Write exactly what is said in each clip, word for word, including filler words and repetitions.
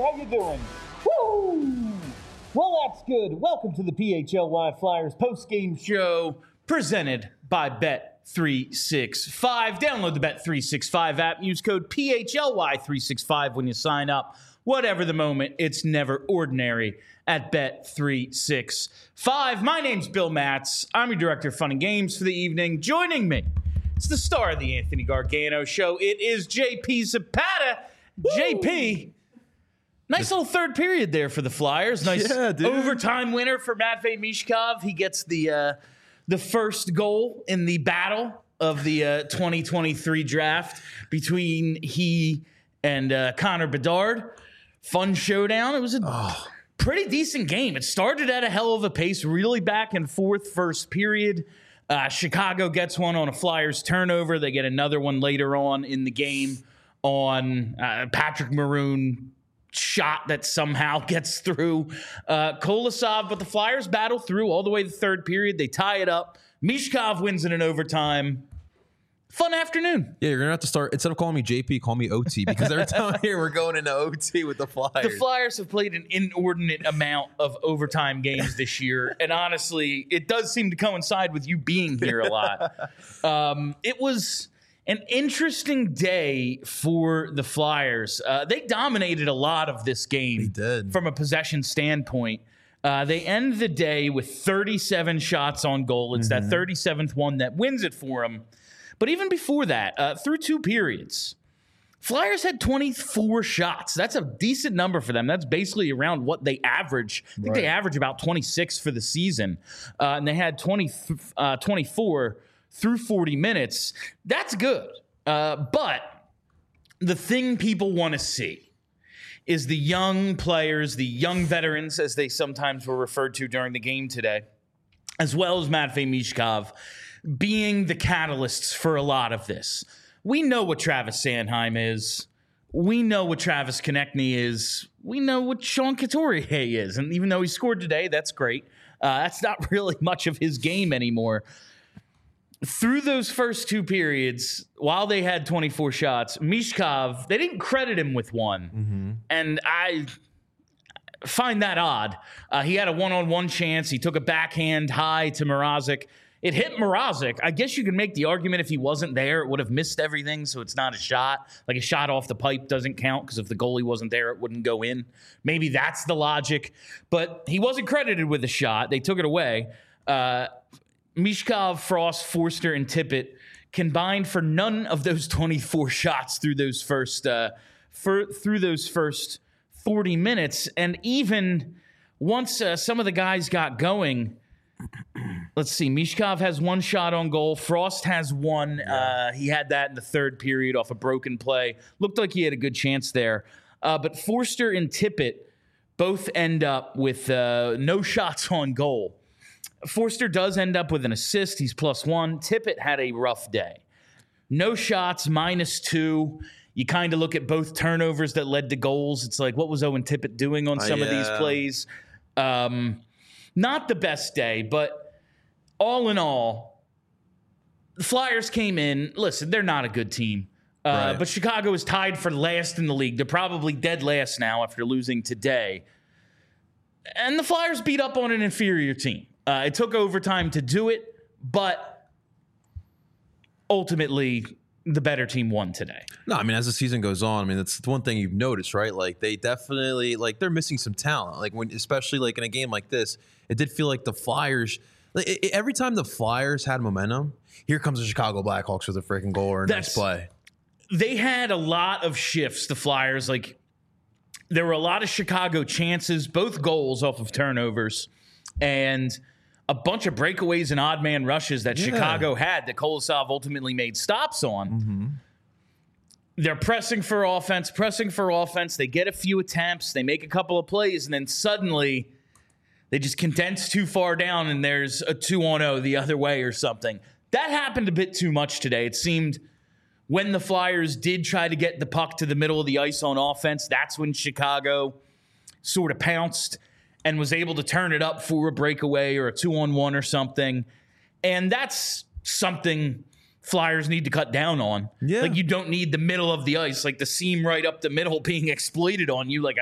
How you doing? Woo! Well, that's good. Welcome to the P H L Y Flyers post-game show presented by Bet three sixty-five. Download the Bet three sixty-five app. Use code P H L Y three sixty-five when you sign up. Whatever the moment, it's never ordinary at Bet three sixty-five. My name's Bill Matz. I'm your director of fun and games for the evening. Joining me, it's the star of the Anthony Gargano show. It is J P Zapata. Woo! J P, nice little third period there for the Flyers. Nice yeah, overtime winner for Matvei Michkov. He gets the uh, the first goal in the battle of the uh, twenty twenty-three draft between he and uh, Connor Bedard. Fun showdown. It was a oh. pretty decent game. It started at a hell of a pace, really back and forth first period. Uh, Chicago gets one on a Flyers turnover. They get another one later on in the game on uh, Patrick Maroon shot that somehow gets through uh, Kolosov. But the Flyers battle through all the way to the third period. They tie it up. Michkov wins in an overtime. Fun afternoon. Yeah, you're going to have to start, instead of calling me J P, call me O T, because every time I hear we're going into O T with the Flyers. The Flyers have played an inordinate amount of overtime games this year, and honestly, it does seem to coincide with you being here a lot. Um, it was an interesting day for the Flyers. Uh, they dominated a lot of this game. They did. From a possession standpoint. Uh, they end the day with thirty-seven shots on goal. It's mm-hmm. that thirty-seventh one that wins it for them. But even before that, uh, through two periods, Flyers had twenty-four shots. That's a decent number for them. That's basically around what they average. I think right. they average about twenty-six for the season. Uh, and they had twenty, uh, twenty-four through forty minutes. That's good. Uh, but the thing people want to see is the young players, the young veterans, as they sometimes were referred to during the game today, as well as Matvei Michkov, being the catalysts for a lot of this. We know what Travis Sanheim is. We know what Travis Konechny is. We know what Sean Couturier is. And even though he scored today, that's great. Uh, that's not really much of his game anymore. Through those first two periods, while they had twenty-four shots, Michkov, they didn't credit him with one. Mm-hmm. And I find that odd. Uh, he had a one-on-one chance. He took a backhand high to Mrazek. It hit Mrazek. I guess you could make the argument if he wasn't there, it would have missed everything, so it's not a shot. Like a shot off the pipe doesn't count because if the goalie wasn't there, it wouldn't go in. Maybe that's the logic. But he wasn't credited with the shot. They took it away. Uh, Michkov, Frost, Forster, and Tippett combined for none of those twenty-four shots through those first uh, for, through those first forty minutes. And even once uh, some of the guys got going, let's see. Michkov has one shot on goal. Frost has one. Yeah. Uh, he had that in the third period off a broken play. Looked like he had a good chance there. Uh, but Forster and Tippett both end up with uh, no shots on goal. Forster does end up with an assist. He's plus one. Tippett had a rough day. No shots, minus two. You kind of look at both turnovers that led to goals. It's like, what was Owen Tippett doing on some uh, yeah. of these plays? Um... Not the best day, but all in all, the Flyers came in. Listen, they're not a good team. Uh, right. But Chicago is tied for last in the league. They're probably dead last now after losing today. And the Flyers beat up on an inferior team. Uh, it took overtime to do it, but ultimately the better team won today. No, I mean, as the season goes on, I mean, that's the one thing you've noticed, right? Like, they definitely, like, they're missing some talent. Like, when, especially, like, in a game like this, it did feel like the Flyers, like, it, it, every time the Flyers had momentum, here comes the Chicago Blackhawks with a freaking goal or a nice play. They had a lot of shifts, the Flyers. Like, there were a lot of Chicago chances, both goals off of turnovers, and a bunch of breakaways and odd man rushes that yeah. Chicago had that Kolosov ultimately made stops on. Mm-hmm. They're pressing for offense, pressing for offense. They get a few attempts. They make a couple of plays, and then suddenly they just condense too far down, and there's a two on oh the other way or something. That happened a bit too much today. It seemed when the Flyers did try to get the puck to the middle of the ice on offense, that's when Chicago sort of pounced and was able to turn it up for a breakaway or a two-on-one or something. And that's something Flyers need to cut down on. Yeah. Like, you don't need the middle of the ice, like the seam right up the middle being exploited on you like a,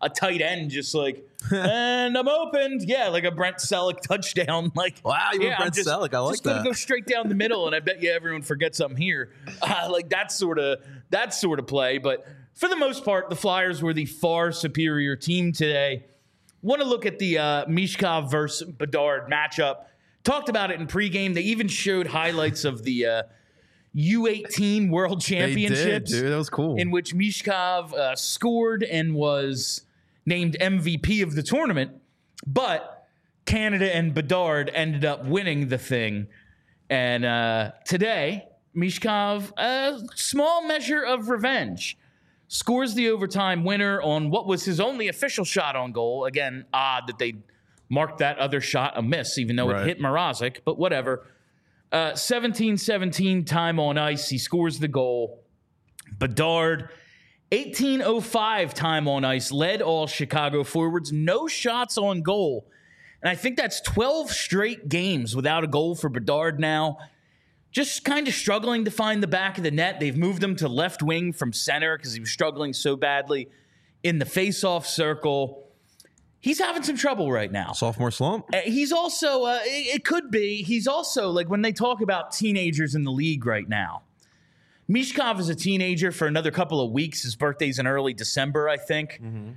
a tight end just like, and I'm opened. Yeah, like a Brent Selleck touchdown. Like, wow, you yeah, went Brent just, Selleck. I like just that. gonna go straight down the middle, and I bet you everyone forgets I'm here. Uh, like that sort of that sort of play. But for the most part, the Flyers were the far superior team today. Want to look at the uh, Mishkov versus Bedard matchup. Talked about it in pregame. They even showed highlights of the uh, U eighteen World Championships. They did, dude. That was cool. In which Mishkov uh, scored and was named M V P of the tournament. But Canada and Bedard ended up winning the thing. And uh, today, Mishkov, a small measure of revenge, scores the overtime winner on what was his only official shot on goal. Again, odd that they marked that other shot a miss, even though right. it hit Mrazek, but whatever. Uh, seventeen seventeen time on ice. He scores the goal. Bedard, eighteen oh five time on ice, led all Chicago forwards. No shots on goal. And I think that's twelve straight games without a goal for Bedard now. Just kind of struggling to find the back of the net. They've moved him to left wing from center because he was struggling so badly in the faceoff circle. He's having some trouble right now. Sophomore slump? Uh, he's also, uh, it, it could be, he's also, like when they talk about teenagers in the league right now, Mishkov is a teenager for another couple of weeks. His birthday's in early December, I think. Mm-hmm.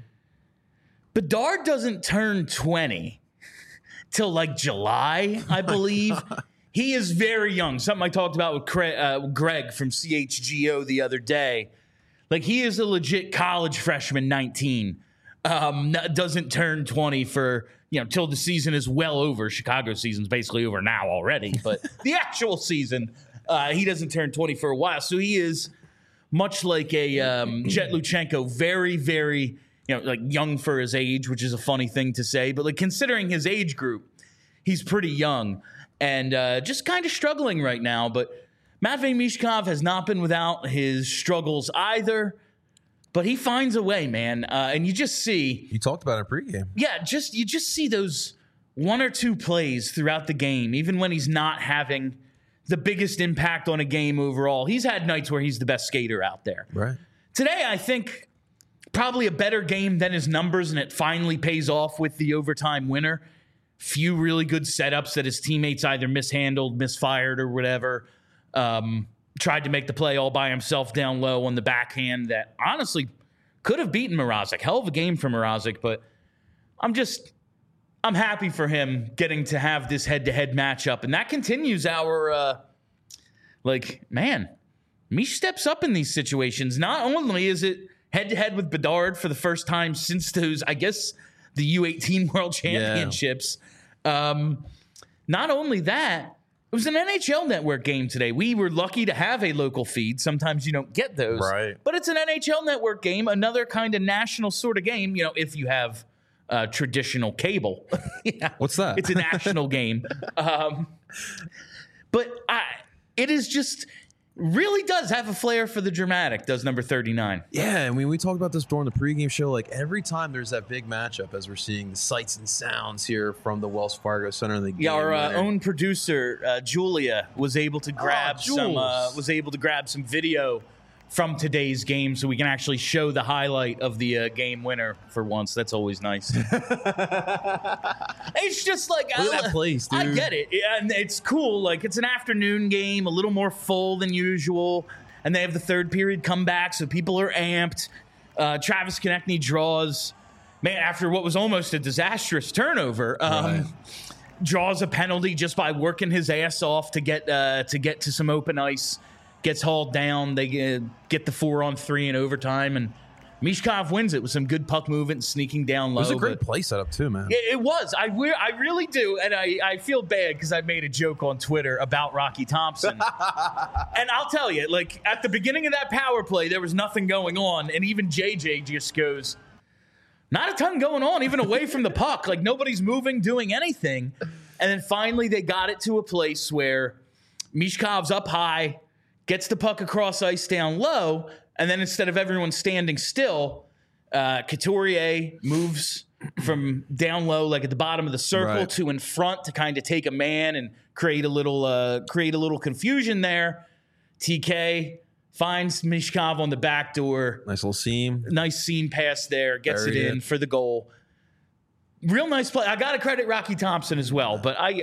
Bedard doesn't turn twenty till like July, I believe. He is very young. Something I talked about with Craig, uh, Greg from C H G O the other day. Like, he is a legit college freshman, nineteen. Um, doesn't turn twenty for, you know, till the season is well over. Chicago's season's basically over now already. But the actual season, uh, he doesn't turn twenty for a while. So he is much like a um, Jet Luchenko, very, very, you know, like young for his age, which is a funny thing to say. But like considering his age group, he's pretty young. And uh, just kind of struggling right now. But Matvei Mishkov has not been without his struggles either. But he finds a way, man. Uh, and you just see... You talked about it pregame. Yeah, just you just see those one or two plays throughout the game, even when he's not having the biggest impact on a game overall. He's had nights where he's the best skater out there. Right. Today, I think probably a better game than his numbers, and it finally pays off with the overtime winner. Few really good setups that his teammates either mishandled, misfired, or whatever. Um, tried to make the play all by himself down low on the backhand that honestly could have beaten Mrazek. Hell of a game for Mrazek, but I'm just, I'm happy for him getting to have this head-to-head matchup. And that continues our, uh, like, man, Mish steps up in these situations. Not only is it head-to-head with Bedard for the first time since those, I guess, the U eighteen World Championships. Yeah. Um, not only that, it was an N H L Network game today. We were lucky to have a local feed. Sometimes you don't get those. Right. But it's an N H L Network game, another kind of national sort of game, you know, if you have uh, traditional cable. Yeah. What's that? It's a national game. Um, but I, it is just... really does have a flair for the dramatic, does number thirty-nine. Yeah, I mean, we talked about this during the pregame show. Like, every time there's that big matchup, as we're seeing the sights and sounds here from the Wells Fargo Center in the game. Yeah, our uh, winner. own producer, uh, Julia, was able to grab oh, some uh, was able to grab some video from today's game so we can actually show the highlight of the uh, game winner for once. That's always nice. It's just like, Look I, at that place, dude. I get it. And it's cool. Like, it's an afternoon game, a little more full than usual. And they have the third period comeback, so people are amped. Uh, Travis Konechny draws, man, after what was almost a disastrous turnover, um, Right. draws a penalty just by working his ass off to get uh, to get to some open ice. Gets hauled down. They get, get the four on three in overtime, and Mishkov wins it with some good puck movement, sneaking down low. It was a great but play setup too, man. It, it was. I, re- I really do, and I, I feel bad because I made a joke on Twitter about Rocky Thompson. And I'll tell you, like, at the beginning of that power play, there was nothing going on, and even J J just goes, not a ton going on, even away from the puck. Like, nobody's moving, doing anything. And then finally they got it to a place where Mishkov's up high, gets the puck across ice down low, and then instead of everyone standing still, uh, Couturier moves from down low, like at the bottom of the circle, right. to in front to kind of take a man and create a little uh, create a little confusion there. T K finds Mishkov on the back door. Nice little seam. Nice seam pass there. Gets Very it in good. for the goal. Real nice play. I got to credit Rocky Thompson as well, but I,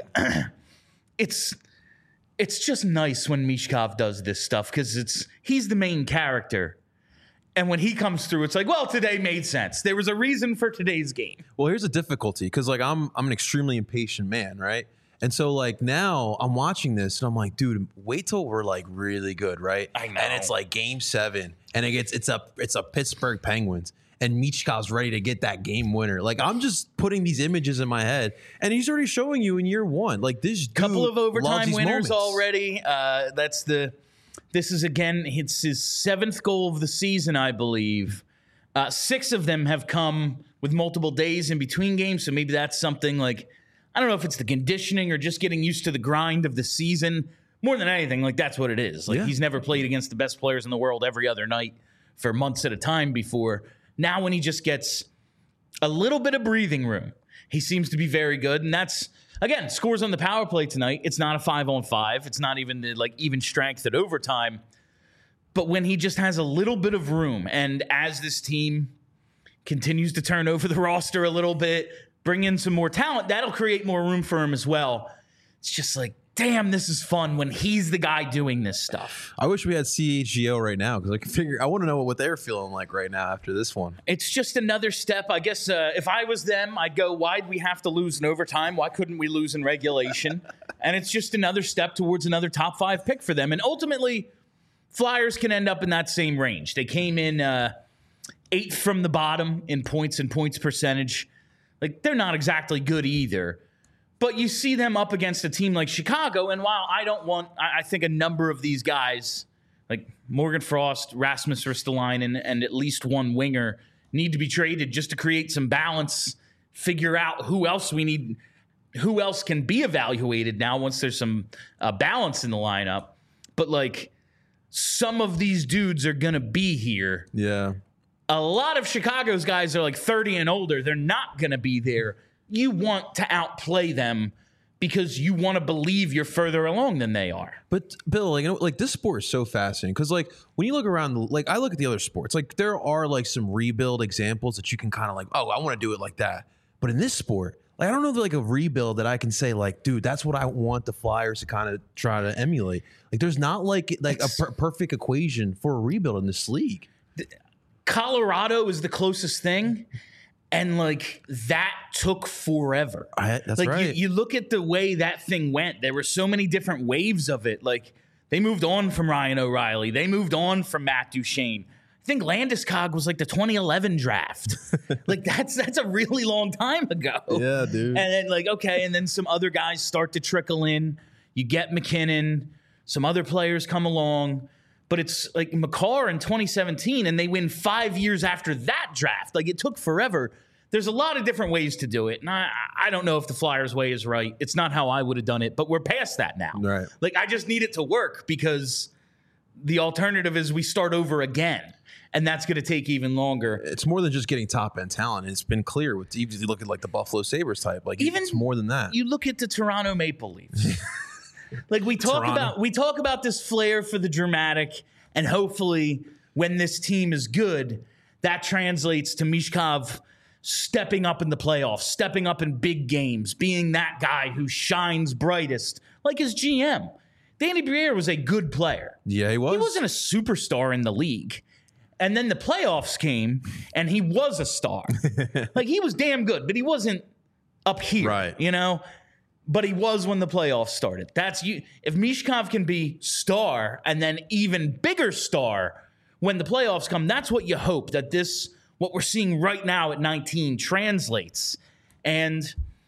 it's it's just nice when Mishkov does this stuff because it's he's the main character. And when he comes through, it's like, well, today made sense. There was a reason for today's game. Well, here's a difficulty because like I'm I'm an extremely impatient man, right? And so like now I'm watching this and I'm like, dude, wait till we're like really good, right? I know. And it's like game seven, and it gets it's a it's a Pittsburgh Penguins, and Michkov's ready to get that game winner. Like I'm just putting these images in my head, and he's already showing you in year one, like this dude Couple of loves overtime these winners moments. already. Uh, that's the. This is again. It's his seventh goal of the season, I believe. Uh, six of them have come with multiple days in between games, so maybe that's something like. I don't know if it's the conditioning or just getting used to the grind of the season. More than anything, like that's what it is. Like Yeah. he's never played against the best players in the world every other night for months at a time before. Now when he just gets a little bit of breathing room, he seems to be very good. And that's, again, scores on the power play tonight. It's not a five on five. It's not even the, like even strength at overtime. But when he just has a little bit of room, and as this team continues to turn over the roster a little bit, bring in some more talent, that'll create more room for him as well. It's just like, damn, this is fun when he's the guy doing this stuff. I wish we had C H G O right now because I can figure. I want to know what they're feeling like right now after this one. It's just another step. I guess uh, if I was them, I'd go, why'd we have to lose in overtime? Why couldn't we lose in regulation? And it's just another step towards another top five pick for them. And ultimately, Flyers can end up in that same range. They came in uh, eighth from the bottom in points and points percentage. Like, they're not exactly good either. But you see them up against a team like Chicago, and while I don't want, I, I think a number of these guys, like Morgan Frost, Rasmus Ristolainen, and at least one winger, need to be traded just to create some balance, figure out who else we need, who else can be evaluated now once there's some uh, balance in the lineup. But, like, some of these dudes are going to be here. Yeah. A lot of Chicago's guys are like thirty and older. They're not going to be there. You want to outplay them because you want to believe you're further along than they are. But Bill, like, you know, like this sport is so fascinating because, like, when you look around, like, I look at the other sports, like, there are like some rebuild examples that you can kind of like, oh, I want to do it like that. But in this sport, like, I don't know if like a rebuild that I can say, like, dude, that's what I want the Flyers to kind of try to emulate. Like, there's not like like a per- perfect equation for a rebuild in this league. Colorado is the closest thing, and like that took forever. I, that's like right. you, you look at the way that thing went. There were so many different waves of it. Like they moved on from Ryan O'Reilly. They moved on from Matt Duchene. I think Landeskog was like the twenty eleven draft. Like that's that's a really long time ago. Yeah, dude. And then like okay, and then some other guys start to trickle in. You get McKinnon. Some other players come along. But it's like Makar in twenty seventeen, and they win five years after that draft. Like, it took forever. There's a lot of different ways to do it. And I, I don't know if the Flyers way is right. It's not how I would have done it, but we're past that now. Right. Like, I just need it to work because the alternative is we start over again. And that's going to take even longer. It's more than just getting top end talent. It's been clear with even if you look at like the Buffalo Sabres type. Like, Even it's more than that. You look at the Toronto Maple Leafs. Like we talk Toronto. about we talk about this flair for the dramatic, and hopefully when this team is good, that translates to Mishkov stepping up in the playoffs, stepping up in big games, being that guy who shines brightest, like his G M. Danny Briere was a good player. Yeah, he was. He wasn't a superstar in the league. And then the playoffs came, and he was a star. Like, he was damn good, but he wasn't up here, Right. you know? But he was when the playoffs started. That's you. If Mishkov can be star and then even bigger star when the playoffs come, that's what you hope that this, what we're seeing right now at nineteen, translates. And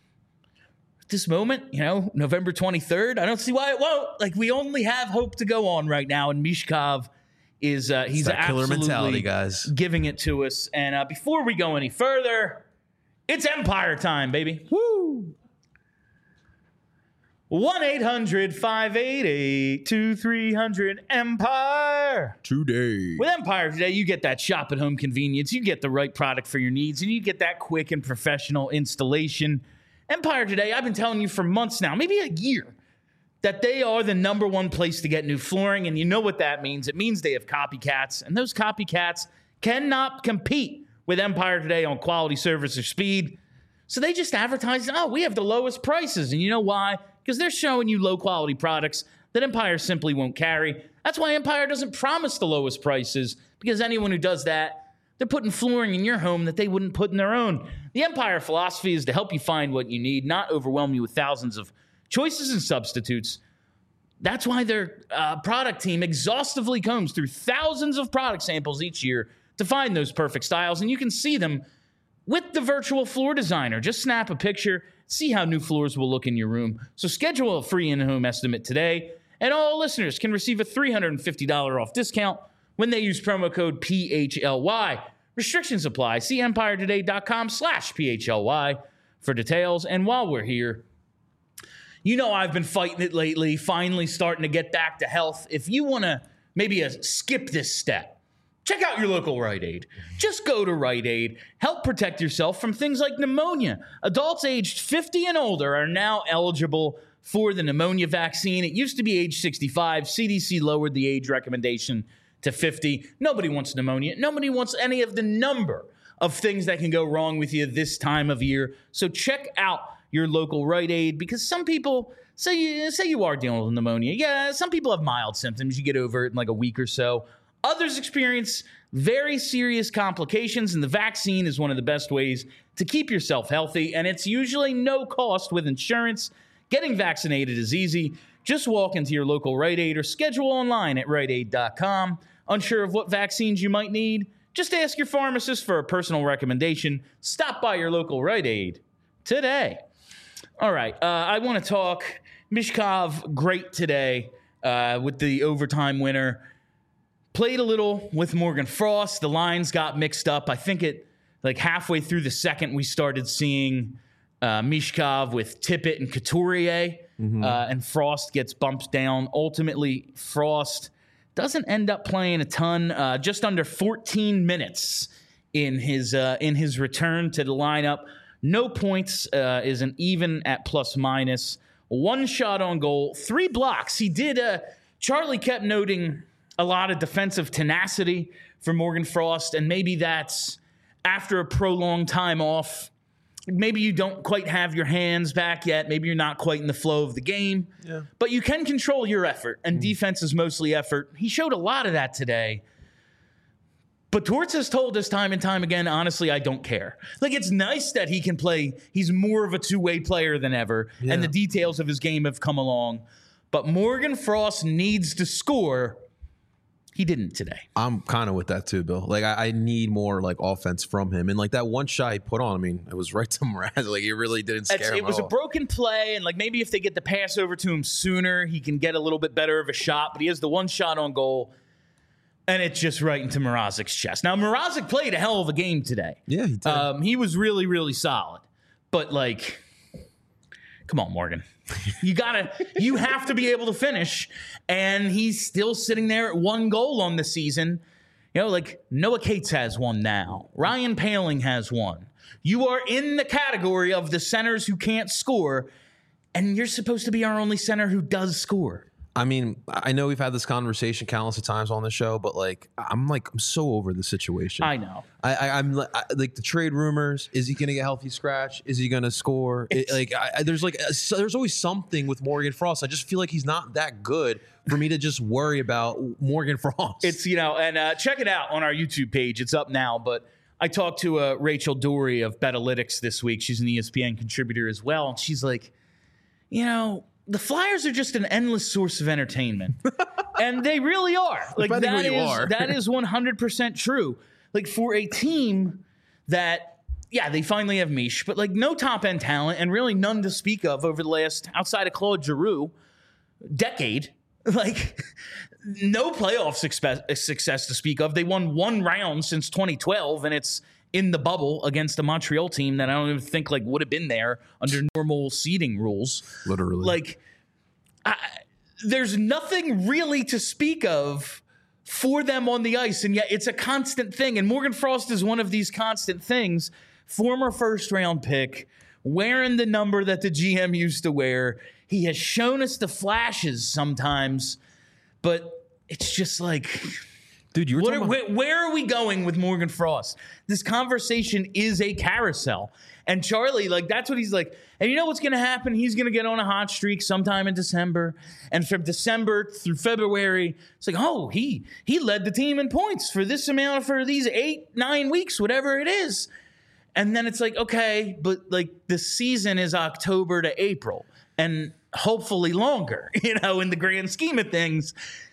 at this moment, you know, November twenty-third, I don't see why it won't. Like, we only have hope to go on right now, and Mishkov is uh, he's that killer absolutely mentality, guys. giving it to us. And uh, before we go any further, it's Empire time, baby. Woo! one eight hundred five eight eight two three zero zero Empire. Today. With Empire Today, you get that shop at home convenience. You get the right product for your needs, and you get that quick and professional installation. Empire Today, I've been telling you for months now, maybe a year, that they are the number one place to get new flooring. And you know what that means. It means they have copycats. And those copycats cannot compete with Empire today on quality, service, or speed. So they just advertise, oh, we have the lowest prices. And you know why? Because they're showing you low-quality products that Empire simply won't carry. That's why Empire doesn't promise the lowest prices, because anyone who does that, they're putting flooring in your home that they wouldn't put in their own. The Empire philosophy is to help you find what you need, not overwhelm you with thousands of choices and substitutes. That's why their uh, product team exhaustively combs through thousands of product samples each year to find those perfect styles, and you can see them with the virtual floor designer. Just snap a picture, see how new floors will look in your room. So schedule a free in-home estimate today, and all listeners can receive a three hundred fifty dollars off discount when they use promo code P H L Y. Restrictions apply. See empiretoday.com slash PHLY for details. And while we're here, you know I've been fighting it lately, finally starting to get back to health. If you want to maybe uh, skip this step, check out your local Rite Aid. Just go to Rite Aid. Help protect yourself from things like pneumonia. Adults aged fifty and older are now eligible for the pneumonia vaccine. It used to be age sixty-five. C D C lowered the age recommendation to fifty. Nobody wants pneumonia. Nobody wants any of the number of things that can go wrong with you this time of year. So check out your local Rite Aid, because some people say you, say you are dealing with pneumonia. Yeah, some people have mild symptoms. You get over it in like a week or so. Others experience very serious complications, and the vaccine is one of the best ways to keep yourself healthy, and it's usually no cost with insurance. Getting vaccinated is easy. Just walk into your local Rite Aid or schedule online at rite aid dot com. Unsure of what vaccines you might need? Just ask your pharmacist for a personal recommendation. Stop by your local Rite Aid today. All right, uh, I want to talk Michkov, great today uh, with the overtime winner. Played a little with Morgan Frost. The lines got mixed up. I think it, like halfway through the second, we started seeing uh, Michkov with Tippett and Couturier, mm-hmm. uh, and Frost gets bumped down. Ultimately, Frost doesn't end up playing a ton, uh, just under fourteen minutes in his uh, in his return to the lineup. No points, uh, is an even at plus minus. One shot on goal, three blocks. He did, uh, Charlie kept noting a lot of defensive tenacity for Morgan Frost, and maybe that's after a prolonged time off. Maybe you don't quite have your hands back yet. Maybe you're not quite in the flow of the game. Yeah. But you can control your effort, and mm. defense is mostly effort. He showed a lot of that today. But Torts has told us time and time again, honestly, I don't care. Like, it's nice that he can play. He's more of a two-way player than ever, yeah. and the details of his game have come along. But Morgan Frost needs to score. He didn't today. I'm kind of with that too, Bill. Like, I, I need more like offense from him. And like that one shot he put on, I mean, it was right to Mraz. Like, it really didn't scare it's, him It was at a all. broken play, and like maybe if they get the pass over to him sooner, he can get a little bit better of a shot. But he has the one shot on goal, and it's just right into Mrazek's chest. Now, Mrazek played a hell of a game today. Yeah, he did. Um, he was really, really solid. But like, come on, Morgan. You gotta, you have to be able to finish, and he's still sitting there at one goal on the season. You know, like Noah Cates has one now. Ryan Poehling has one. You are in the category of the centers who can't score, and you're supposed to be our only center who does score. I mean, I know we've had this conversation countless of times on the show, but like, I'm like, I'm so over the situation. I know. I, I I'm I, like the trade rumors. Is he going to get healthy scratch? Is he going to score? It, like, I, there's like, a, so there's always something with Morgan Frost. I just feel like he's not that good for me to just worry about Morgan Frost. It's, you know, and uh, check it out on our YouTube page. It's up now, but I talked to uh, Rachel Dory of Betalytics this week. She's an E S P N contributor as well. And she's like, you know, the Flyers are just an endless source of entertainment. And they really are. Like, Depending that who you is, are. that is one hundred percent true. Like, for a team that, yeah, they finally have Mish, but like no top-end talent and really none to speak of over the last, outside of Claude Giroux, decade. Like, no playoff success, success to speak of. They won one round since twenty twelve, and it's in the bubble against a Montreal team that I don't even think like would have been there under normal seeding rules. Literally. Like, I, there's nothing really to speak of for them on the ice, and yet it's a constant thing. And Morgan Frost is one of these constant things. Former first-round pick, wearing the number that the G M used to wear. He has shown us the flashes sometimes, but it's just like, dude, you were what talking are, about- where, where are we going with Morgan Frost? This conversation is a carousel. And Charlie, like, that's what he's like. And you know what's going to happen? He's going to get on a hot streak sometime in December. And from December through February, it's like, oh, he he led the team in points for this amount, for these eight, nine weeks, whatever it is. And then it's like, okay, but like the season is October to April and hopefully longer, you know, in the grand scheme of things.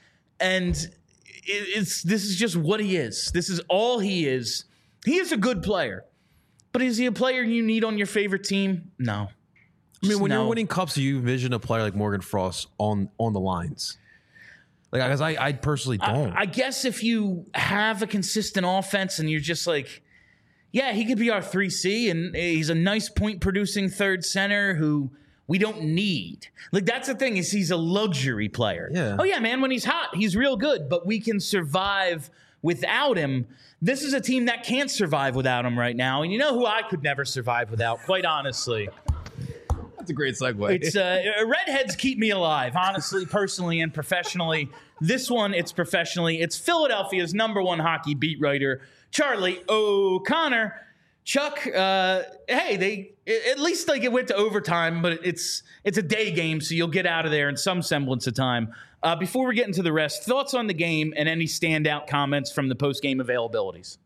And it, it's this is just what he is. This is all he is. He is a good player. But is he a player you need on your favorite team? No. I mean, when no. you're winning cups, do you envision a player like Morgan Frost on on the lines? Like, because I, I personally don't. I, I guess if you have a consistent offense and you're just like, yeah, he could be our three C, and he's a nice point-producing third center who we don't need. Like, that's the thing, is he's a luxury player. Yeah. Oh, yeah, man, when he's hot, he's real good, but we can survive without him. This is a team that can't survive without him right now, and you know who I could never survive without, quite honestly. That's a great segue. It's uh, redheads keep me alive, honestly, personally, and professionally. This one, it's professionally. It's Philadelphia's number one hockey beat writer, Charlie O'Connor. Chuck, uh, hey, they at least like it went to overtime, but it's it's a day game, so you'll get out of there in some semblance of time. Uh, before we get into the rest, thoughts on the game and any standout comments from the post-game availabilities?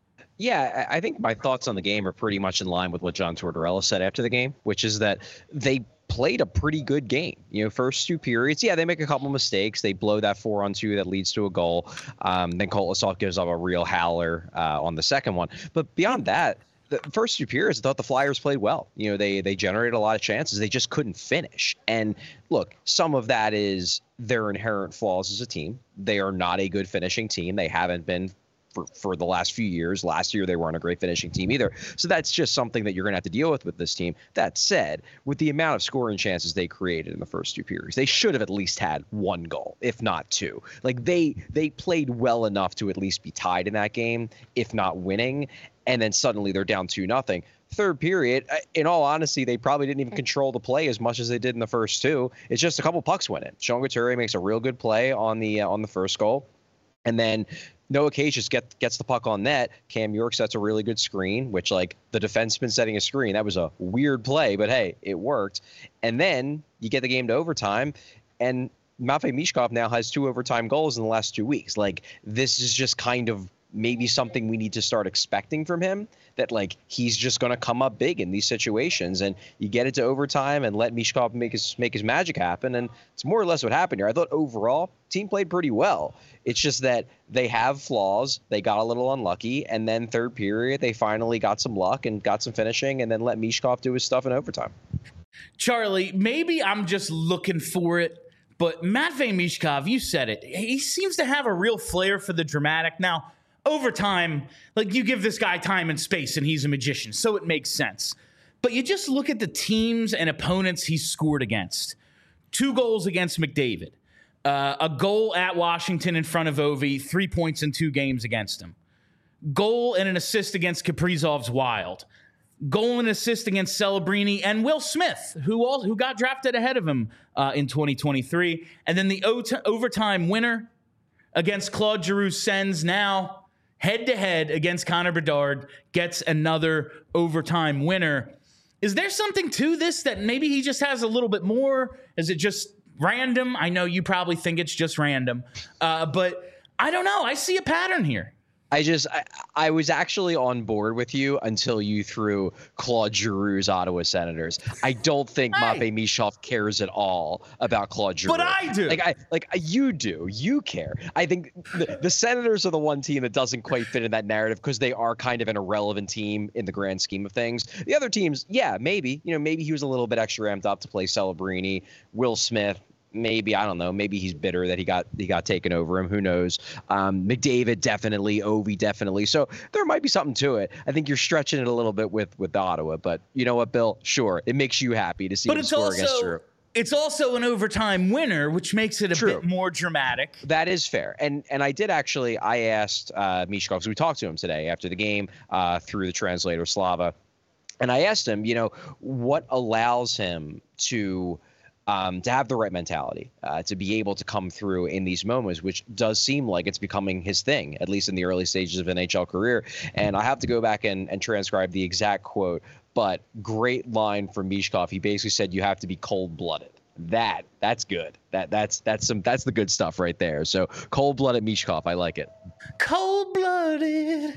Yeah, I think my thoughts on the game are pretty much in line with what John Tortorella said after the game, which is that they played a pretty good game. You know, first two periods, yeah, they make a couple mistakes. They blow that four on two that leads to a goal. Um, then Kolosov gives up a real howler uh, on the second one. But beyond that, the first two periods, I thought the Flyers played well. You know, they they generated a lot of chances. They just couldn't finish. And look, some of that is their inherent flaws as a team. They are not a good finishing team. They haven't been For, for the last few years. Last year, they weren't a great finishing team either. So that's just something that you're going to have to deal with with this team. That said, with the amount of scoring chances they created in the first two periods, they should have at least had one goal, if not two. Like they they played well enough to at least be tied in that game, if not winning. And then suddenly they're down two nothing. Third period, in all honesty, they probably didn't even control the play as much as they did in the first two. It's just a couple pucks went in. Sean Couturier makes a real good play on the uh, on the first goal. And then Noah Cage just get, gets the puck on net. Cam York sets a really good screen, which, like, the defenseman setting a screen, that was a weird play, but hey, it worked. And then you get the game to overtime, and Matvei Michkov now has two overtime goals in the last two weeks. Like, this is just kind of maybe something we need to start expecting from him, that, like, he's just going to come up big in these situations. And you get it to overtime and let Michkov make his make his magic happen. And it's more or less what happened here. I thought overall, team played pretty well. It's just that they have flaws. They got a little unlucky. And then third period, they finally got some luck and got some finishing and then let Michkov do his stuff in overtime. Charlie, maybe I'm just looking for it, but Matvei Michkov, you said it. He seems to have a real flair for the dramatic. Now, over time, like, you give this guy time and space and he's a magician, so it makes sense. But you just look at the teams and opponents he's scored against. Two goals against McDavid. Uh, a goal at Washington in front of Ovi. Three points in two games against him. Goal and an assist against Kaprizov's Wild. Goal and assist against Celebrini and Will Smith, who all, who got drafted ahead of him uh, in twenty twenty-three. And then the o- overtime winner against Claude Giroux Sens, now head-to-head against Connor Bedard, gets another overtime winner. Is there something to this that maybe he just has a little bit more? Is it just random? I know you probably think it's just random, uh, but I don't know. I see a pattern here. I just, I, I was actually on board with you until you threw Claude Giroux's Ottawa Senators. I don't think hey. Matvei Michkov cares at all about Claude Giroux. But I do. Like, I, like you do. You care. I think the, the Senators are the one team that doesn't quite fit in that narrative because they are kind of an irrelevant team in the grand scheme of things. The other teams, yeah, maybe. You know, maybe he was a little bit extra ramped up to play Celebrini, Will Smith. Maybe, I don't know. Maybe he's bitter that he got he got taken over him. Who knows? Um, McDavid definitely, Ovi definitely. So there might be something to it. I think you're stretching it a little bit with with Ottawa, but you know what, Bill? Sure, it makes you happy to see but him it's score also, against Drew. It's also an overtime winner, which makes it a True. bit more dramatic. That is fair. And and I did actually, I asked uh, Michkov, because we talked to him today after the game uh, through the translator Slava, and I asked him, you know, what allows him to Um, to have the right mentality, uh, to be able to come through in these moments, which does seem like it's becoming his thing, at least in the early stages of N H L career. And I have to go back and, and transcribe the exact quote, but great line from Michkov. He basically said, you have to be cold-blooded. That, that's good. That, that's, that's some, that's the good stuff right there. So cold-blooded Michkov, I like it. Cold-blooded.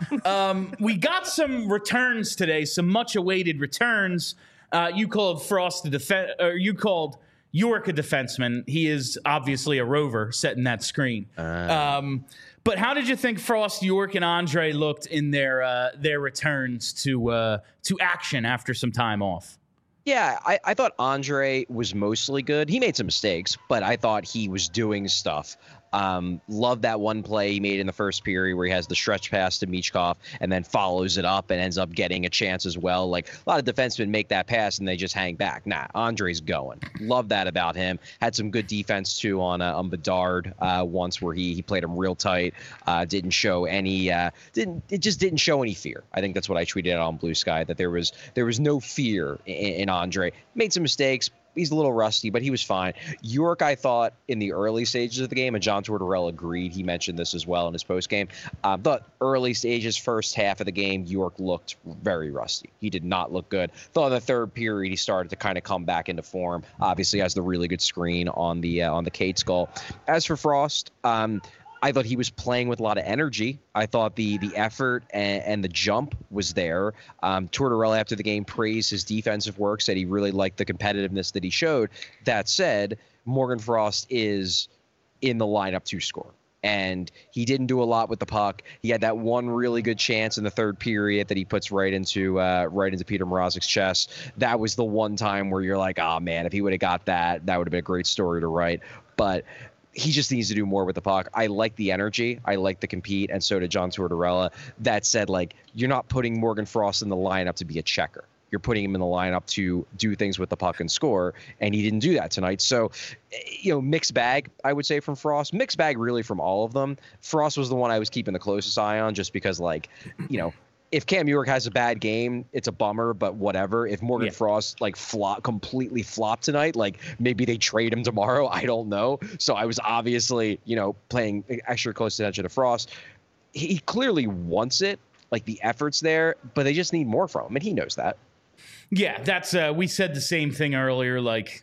um, we got some returns today, some much-awaited returns. Uh, you called Frost a defense, or you called York a defenseman. He is obviously a rover setting that screen. Uh. Um, but how did you think Frost, York, and Andre looked in their uh, their returns to uh, to action after some time off? Yeah, I, I thought Andre was mostly good. He made some mistakes, but I thought he was doing stuff. Um, love that one play he made in the first period where he has the stretch pass to Michkov and then follows it up and ends up getting a chance as well. Like a lot of defensemen make that pass and they just hang back. Nah, Andre's going. Love that about him. Had some good defense too on uh, on Bedard uh, once where he he played him real tight. Uh, didn't show any. Uh, didn't it just didn't show any fear. I think that's what I tweeted out on Blue Sky, that there was there was no fear in, in Andre. Made some mistakes. He's a little rusty, but he was fine. York, I thought, in the early stages of the game, and John Tortorella agreed. He mentioned this as well in his postgame. Uh, but early stages, first half of the game, York looked very rusty. He did not look good. Thought in the third period, he started to kind of come back into form. Obviously, has the really good screen on the uh, on the Cates goal. As for Frost, um, I thought he was playing with a lot of energy. I thought the the effort and, and the jump was there. Um, Tortorella, after the game, praised his defensive work, said he really liked the competitiveness that he showed. That said, Morgan Frost is in the lineup to score. And he didn't do a lot with the puck. He had that one really good chance in the third period that he puts right into uh, right into Peter Mrazek's chest. That was the one time where you're like, oh, man, if he would have got that, that would have been a great story to write. But he just needs to do more with the puck. I like the energy. I like the compete, and so did John Tortorella. That said, like, you're not putting Morgan Frost in the lineup to be a checker. You're putting him in the lineup to do things with the puck and score, and he didn't do that tonight. So, you know, mixed bag, I would say, from Frost. Mixed bag, really, from all of them. Frost was the one I was keeping the closest eye on just because, like, you know, if Cam York has a bad game, it's a bummer, but whatever. If Morgan yeah. Frost like flop completely flopped tonight, like maybe they trade him tomorrow. I don't know. So I was obviously, you know, paying extra close attention to Frost. He clearly wants it, like the effort's there, but they just need more from him, and he knows that. Yeah, that's uh, we said the same thing earlier. Like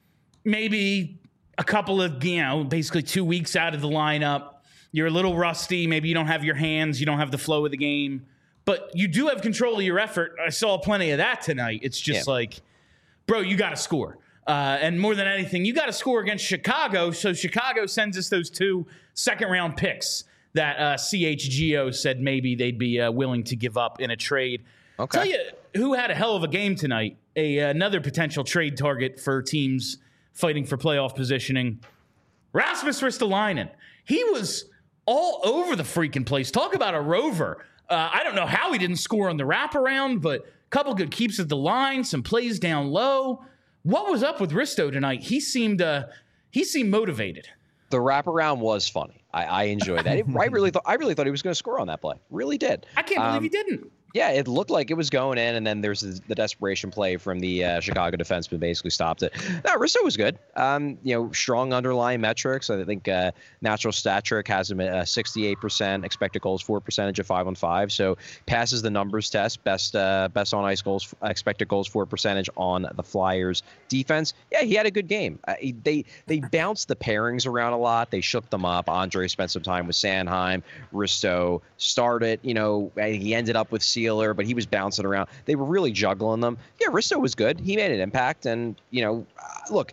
maybe a couple of, you know, basically two weeks out of the lineup, you're a little rusty. Maybe you don't have your hands, you don't have the flow of the game. But you do have control of your effort. I saw plenty of that tonight. It's just yeah. like, bro, you got to score. Uh, and more than anything, you got to score against Chicago. So Chicago sends us those two second-round picks that uh, C H G O said maybe they'd be uh, willing to give up in a trade. Okay. Tell you who had a hell of a game tonight, a, another potential trade target for teams fighting for playoff positioning, Rasmus Ristolainen. He was all over the freaking place. Talk about a rover. Uh, I don't know how he didn't score on the wraparound, but a couple good keeps at the line, some plays down low. What was up with Risto tonight? He seemed uh, he seemed motivated. The wraparound was funny. I, I enjoyed that. It, I really thought I really thought he was going to score on that play. Really did. I can't believe um, he didn't. Yeah, it looked like it was going in, and then there's the, the desperation play from the uh, Chicago defenseman basically stopped it. No, Risto was good. Um, you know, strong underlying metrics. I think uh, Natural Stat Trick has him at a sixty-eight percent expected goals for percentage of five on five. So passes the numbers test. Best uh, best on ice goals, expected goals for percentage on the Flyers defense. Yeah, he had a good game. Uh, they they bounced the pairings around a lot. They shook them up. Andre spent some time with Sanheim. Risto started. You know, he ended up with Sealer, but he was bouncing around. They were really juggling them. Yeah, Risto was good. He made an impact. And, you know, uh, look,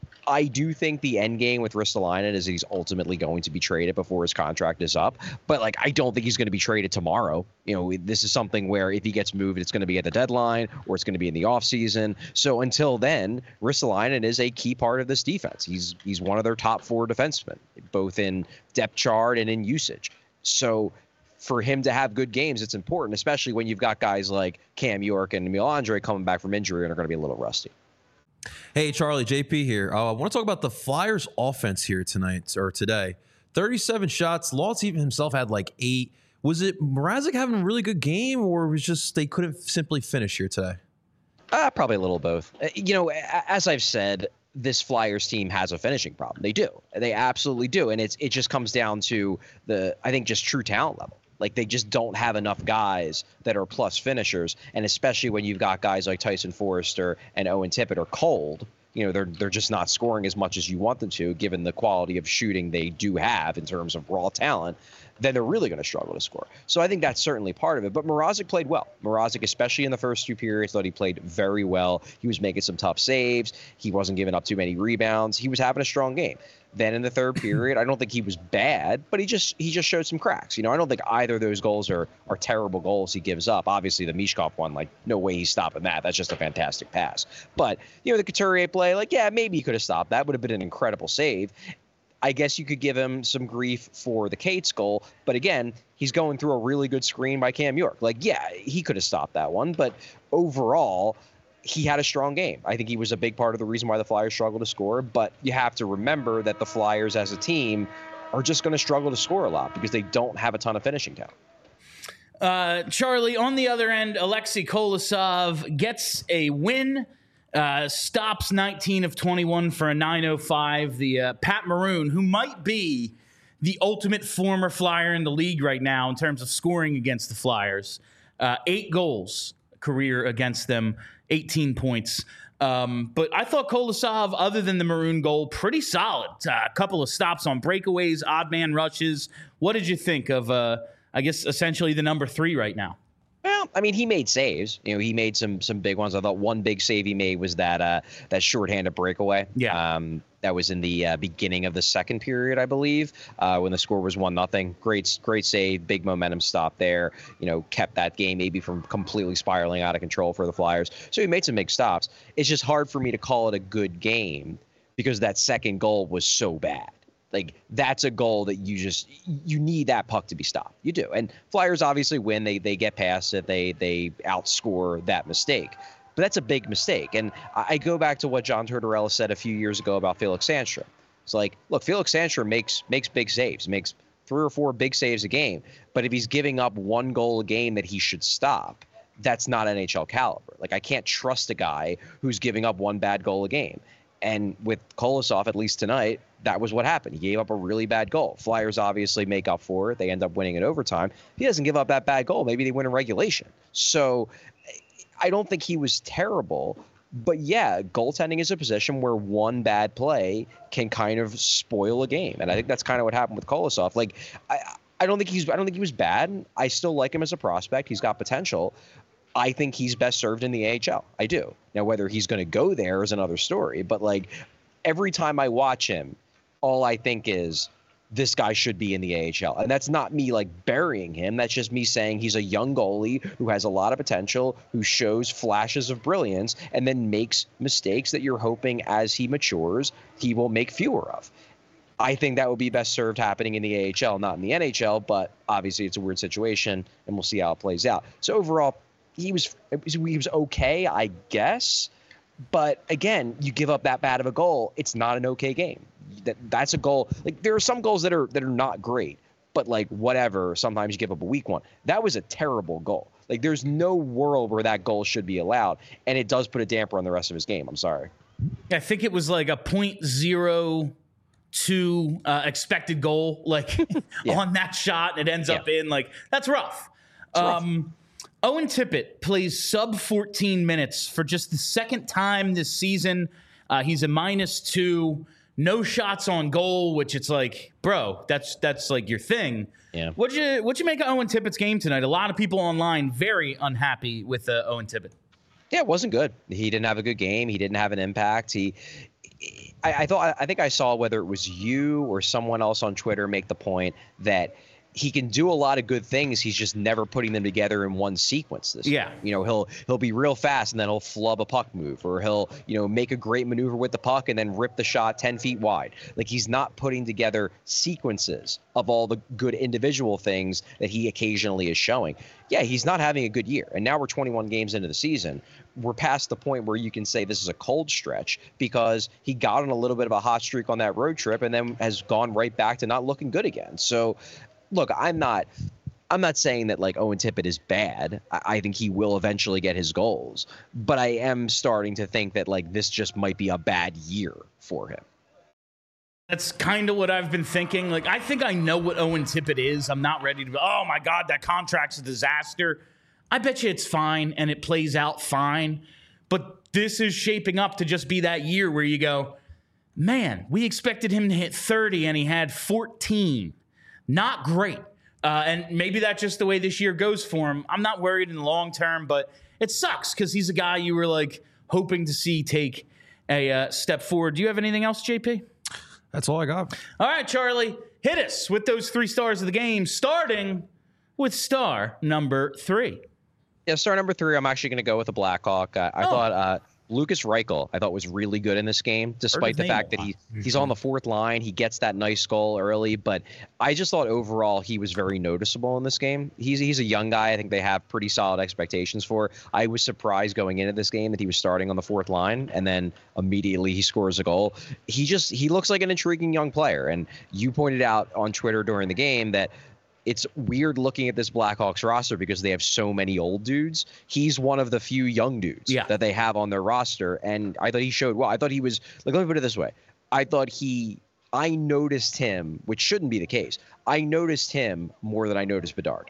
I do think the end game with Ristolainen is he's ultimately going to be traded before his contract is up. But, like, I don't think he's going to be traded tomorrow. You know, this is something where if he gets moved, it's going to be at the deadline or it's going to be in the offseason. So until then, Ristolainen is a key part of this defense. He's he's one of their top four defensemen, both in depth chart and in usage. So for him to have good games, it's important, especially when you've got guys like Cam York and Emil Andre coming back from injury and are going to be a little rusty. Hey, Charlie, J P here. Uh, I want to talk about the Flyers offense here tonight or today. thirty-seven shots. Lawrence even himself had like eight. Was it Mrazek having a really good game, or was just they couldn't simply finish here today? Uh, probably a little both. Uh, you know, as I've said, this Flyers team has a finishing problem. They do. They absolutely do. And it's it just comes down to the, I think, just true talent level. Like, they just don't have enough guys that are plus finishers. And especially when you've got guys like Tyson Forrester and Owen Tippett are cold, you know, they're they're just not scoring as much as you want them to, given the quality of shooting they do have in terms of raw talent, then they're really going to struggle to score. So I think that's certainly part of it. But Mrazek played well. Mrazek, especially in the first two periods, thought he played very well. He was making some tough saves. He wasn't giving up too many rebounds. He was having a strong game. Then in the third period, I don't think he was bad, but he just he just showed some cracks. You know, I don't think either of those goals are are terrible goals he gives up. Obviously, the Mishkov one, like, no way he's stopping that. That's just a fantastic pass. But, you know, the Couturier play, like, yeah, maybe he could have stopped that. Would have been an incredible save. I guess you could give him some grief for the Cates goal. But again, he's going through a really good screen by Cam York. Like, yeah, he could have stopped that one. But overall, he had a strong game. I think he was a big part of the reason why the Flyers struggle to score. But you have to remember that the Flyers as a team are just going to struggle to score a lot because they don't have a ton of finishing talent. Uh, Charlie, on the other end, Alexei Kolosov gets a win. Uh, stops nineteen of twenty-one for a nine oh five. The uh, Pat Maroon, who might be the ultimate former Flyer in the league right now in terms of scoring against the Flyers. Uh, eight goals career against them, eighteen points. Um, but I thought Kolosov, other than the Maroon goal, pretty solid. Uh, a couple of stops on breakaways, odd man rushes. What did you think of, uh, I guess, essentially the number three right now? Well, I mean, he made saves. You know, he made some some big ones. I thought one big save he made was that uh, that shorthanded breakaway. Yeah. Um, that was in the uh, beginning of the second period, I believe, uh, when the score was one nothing. Great, great save, big momentum stop there. You know, kept that game maybe from completely spiraling out of control for the Flyers. So he made some big stops. It's just hard for me to call it a good game because that second goal was so bad. Like, that's a goal that you just, you need that puck to be stopped. You do. And Flyers obviously win. They they get past it. They they outscore that mistake. But that's a big mistake. And I go back to what John Tortorella said a few years ago about Felix Sandstrom. It's like, look, Felix Sandstrom makes makes big saves, makes three or four big saves a game. But if he's giving up one goal a game that he should stop, that's not N H L caliber. Like, I can't trust a guy who's giving up one bad goal a game. And with Kolosov, at least tonight, that was what happened. He gave up a really bad goal. Flyers obviously make up for it. They end up winning in overtime. If he doesn't give up that bad goal, maybe they win in regulation. So I don't think he was terrible. But yeah, goaltending is a position where one bad play can kind of spoil a game. And I think that's kind of what happened with Kolosov. Like, I, I don't think he's I don't think he was bad. I still like him as a prospect. He's got potential. I think he's best served in the A H L. I do. Now, whether he's going to go there is another story. But, like, every time I watch him, all I think is this guy should be in the A H L. And that's not me, like, burying him. That's just me saying he's a young goalie who has a lot of potential, who shows flashes of brilliance, and then makes mistakes that you're hoping as he matures he will make fewer of. I think that would be best served happening in the A H L, not in the N H L. But obviously it's a weird situation, and we'll see how it plays out. So overall, He was he was okay, I guess. But again, you give up that bad of a goal, it's not an okay game. That that's a goal. Like, there are some goals that are that are not great, but, like, whatever. Sometimes you give up a weak one. That was a terrible goal. Like, there's no world where that goal should be allowed, and it does put a damper on the rest of his game. I'm sorry. I think it was like a point zero two uh, expected goal, like yeah. on that shot. It ends yeah. up in, like, that's rough. It's Um, rough. Owen Tippett plays sub fourteen minutes for just the second time this season. Uh, he's a minus two, no shots on goal, which it's like, bro, that's that's like your thing. Yeah. What'd you what'd you make of Owen Tippett's game tonight? A lot of people online very unhappy with uh, Owen Tippett. Yeah, it wasn't good. He didn't have a good game. He didn't have an impact. He, I, I thought, I think I saw whether it was you or someone else on Twitter make the point that he can do a lot of good things. He's just never putting them together in one sequence this Yeah. year. You know, he'll he'll be real fast and then he'll flub a puck move, or he'll, you know, make a great maneuver with the puck and then rip the shot ten feet wide. Like, he's not putting together sequences of all the good individual things that he occasionally is showing. Yeah, he's not having a good year. And now we're twenty-one games into the season. We're past the point where you can say this is a cold stretch because he got on a little bit of a hot streak on that road trip and then has gone right back to not looking good again. So, look, I'm not I'm not saying that like Owen Tippett is bad. I, I think he will eventually get his goals, but I am starting to think that like this just might be a bad year for him. That's kind of what I've been thinking. Like, I think I know what Owen Tippett is. I'm not ready to be, oh my God, that contract's a disaster. I bet you it's fine and it plays out fine. But this is shaping up to just be that year where you go, man, we expected him to hit thirty and he had fourteen. Not great. Uh, and maybe that's just the way this year goes for him. I'm not worried in the long term, but it sucks because he's a guy you were like hoping to see take a uh, step forward. Do you have anything else, J P? That's all I got. All right, Charlie, hit us with those three stars of the game, starting with star number three. Yeah, star number three, I'm actually going to go with the Blackhawk. Uh, I Oh. thought uh, Lucas Reichel, I thought was really good in this game, despite the name a fact that lot. he he's on the fourth line. He gets that nice goal early, but I just thought overall he was very noticeable in this game. He's he's a young guy. I think they have pretty solid expectations for. I was surprised going into this game that he was starting on the fourth line, and then immediately he scores a goal. He just he looks like an intriguing young player, and you pointed out on Twitter during the game that it's weird looking at this Blackhawks roster because they have so many old dudes. He's one of the few young dudes Yeah. that they have on their roster. And I thought he showed well. I thought he was like, let me put it this way. I thought he, I noticed him, which shouldn't be the case. I noticed him more than I noticed Bedard.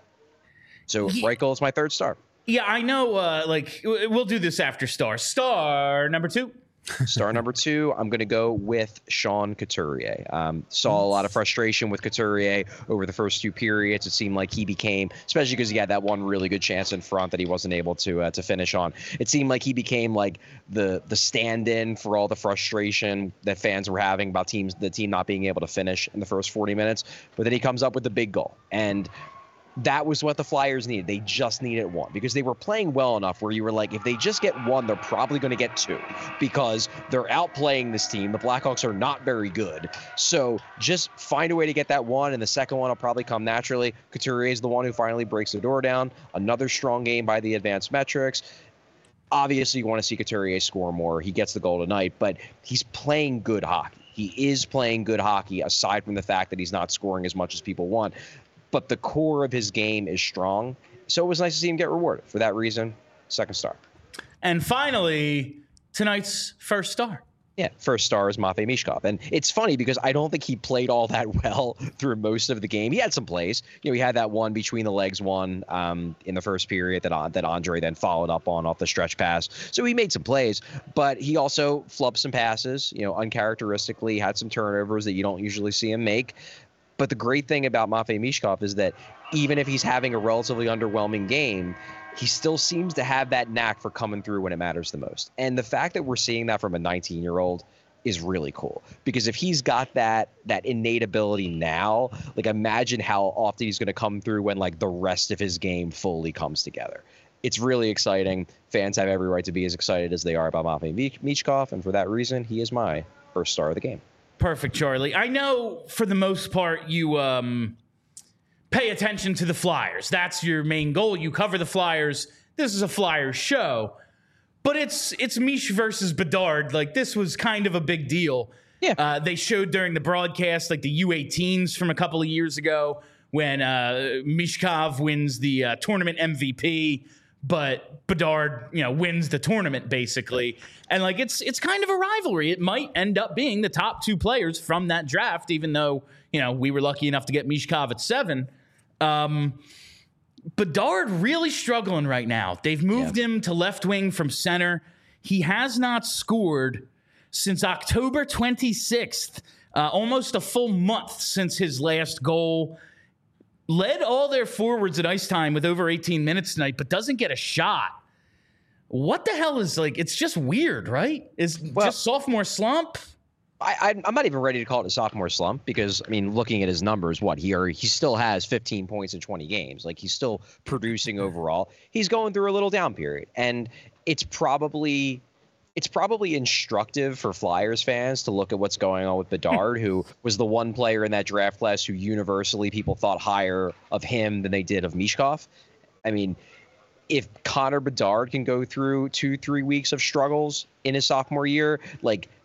So He- Reichel is my third star. Yeah, I know. Uh, like, w- we'll do this after star. Star number two. Star number two, I'm going to go with Sean Couturier. Um, saw a lot of frustration with Couturier over the first two periods. It seemed like he became, especially because he had that one really good chance in front that he wasn't able to uh, to finish on. It seemed like he became like the the stand-in for all the frustration that fans were having about teams, the team not being able to finish in the first forty minutes. But then he comes up with the big goal, and that was what the Flyers needed. They just needed one because they were playing well enough where you were like, if they just get one, they're probably going to get two because they're outplaying this team. The Blackhawks are not very good. So just find a way to get that one, and the second one will probably come naturally. Couturier is the one who finally breaks the door down. Another strong game by the advanced metrics. Obviously, you want to see Couturier score more. He gets the goal tonight, but he's playing good hockey. He is playing good hockey, aside from the fact that he's not scoring as much as people want. But the core of his game is strong. So it was nice to see him get rewarded. For that reason, second star. And finally, tonight's first star. Yeah, first star is Matvei Mishkov. And it's funny because I don't think he played all that well through most of the game. He had some plays. You know, he had that one between the legs one um, in the first period that, that Andre then followed up on off the stretch pass. So he made some plays, but he also flubbed some passes, you know, uncharacteristically, had some turnovers that you don't usually see him make. But the great thing about Matvei Mishkov is that even if he's having a relatively underwhelming game, he still seems to have that knack for coming through when it matters the most. And the fact that we're seeing that from a nineteen-year-old is really cool. Because if he's got that that innate ability now, like imagine how often he's going to come through when like the rest of his game fully comes together. It's really exciting. Fans have every right to be as excited as they are about Matvei Mishkov, and for that reason, he is my first star of the game. Perfect, Charlie. I know for the most part you um, pay attention to the Flyers. That's your main goal. You cover the Flyers. This is a Flyers show. But it's it's Mish versus Bedard. Like, this was kind of a big deal. Yeah. Uh, they showed during the broadcast, like the U eighteens from a couple of years ago when uh, Mishkov wins the uh, tournament M V P. But Bedard, you know, wins the tournament basically. And like, it's it's kind of a rivalry. It might end up being the top two players from that draft, even though, you know, we were lucky enough to get Mishkov at seven. Um, Bedard really struggling right now. They've moved Yeah. him to left wing from center. He has not scored since October twenty-sixth, uh, almost a full month since his last goal. Led all their forwards at ice time with over eighteen minutes tonight, but doesn't get a shot. What the hell is like? It's just weird, right? Is Well- just sophomore slump? I, I, I'm not even ready to call it a sophomore slump because, I mean, looking at his numbers, what he are, he still has fifteen points in twenty games. Like, he's still producing overall. He's going through a little down period, and it's probably it's probably instructive for Flyers fans to look at what's going on with Bedard, who was the one player in that draft class who universally people thought higher of him than they did of Mishkov. I mean, if Connor Bedard can go through two, three weeks of struggles in his sophomore year, like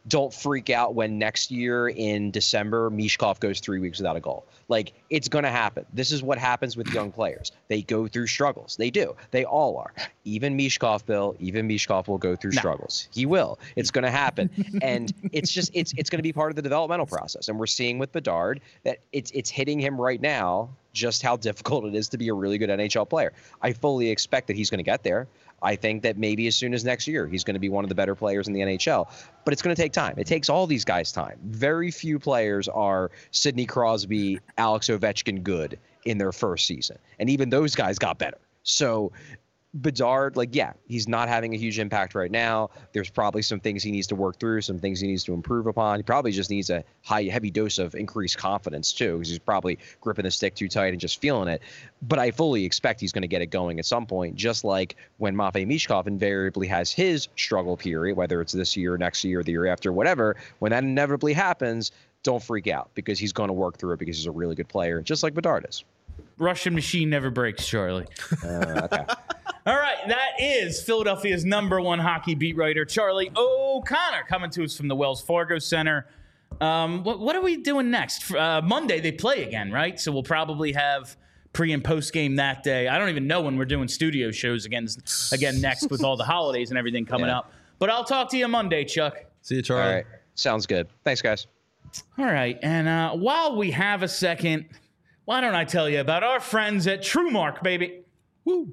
don't freak out when next year in December, Mishkov goes three weeks without a goal. Like, it's going to happen. This is what happens with young players. They go through struggles. They do. They all are. Even Mishkov, Bill, even Mishkov will go through no. struggles. He will. It's going to happen. And it's just, it's it's going to be part of the developmental process. And we're seeing with Bedard that it's it's hitting him right now just how difficult it is to be a really good N H L player. I fully expect that he's going to get there. I think that maybe as soon as next year, he's going to be one of the better players in the N H L. But it's going to take time. It takes all these guys time. Very few players are Sidney Crosby, Alex Ovechkin good in their first season. And even those guys got better. So Bedard, like, yeah, he's not having a huge impact right now. There's probably some things he needs to work through, some things he needs to improve upon. He probably just needs a high, heavy dose of increased confidence, too, because he's probably gripping the stick too tight and just feeling it. But I fully expect he's going to get it going at some point, just like when Matvei Mishkov invariably has his struggle period, whether it's this year, next year, the year after, whatever. When that inevitably happens, don't freak out, because he's going to work through it because he's a really good player, just like Bedard is. Russian machine never breaks, Charlie. Uh, okay. All right, that is Philadelphia's number one hockey beat writer, Charlie O'Connor, coming to us from the Wells Fargo Center. Um, what, what are we doing next? Uh, Monday, they play again, right? So we'll probably have pre- and post-game that day. I don't even know when we're doing studio shows again, again next with all the holidays and everything coming yeah. up. But I'll talk to you Monday, Chuck. See you, Charlie. All right. Sounds good. Thanks, guys. All right, and uh, while we have a second, why don't I tell you about our friends at TrueMark, baby? Woo!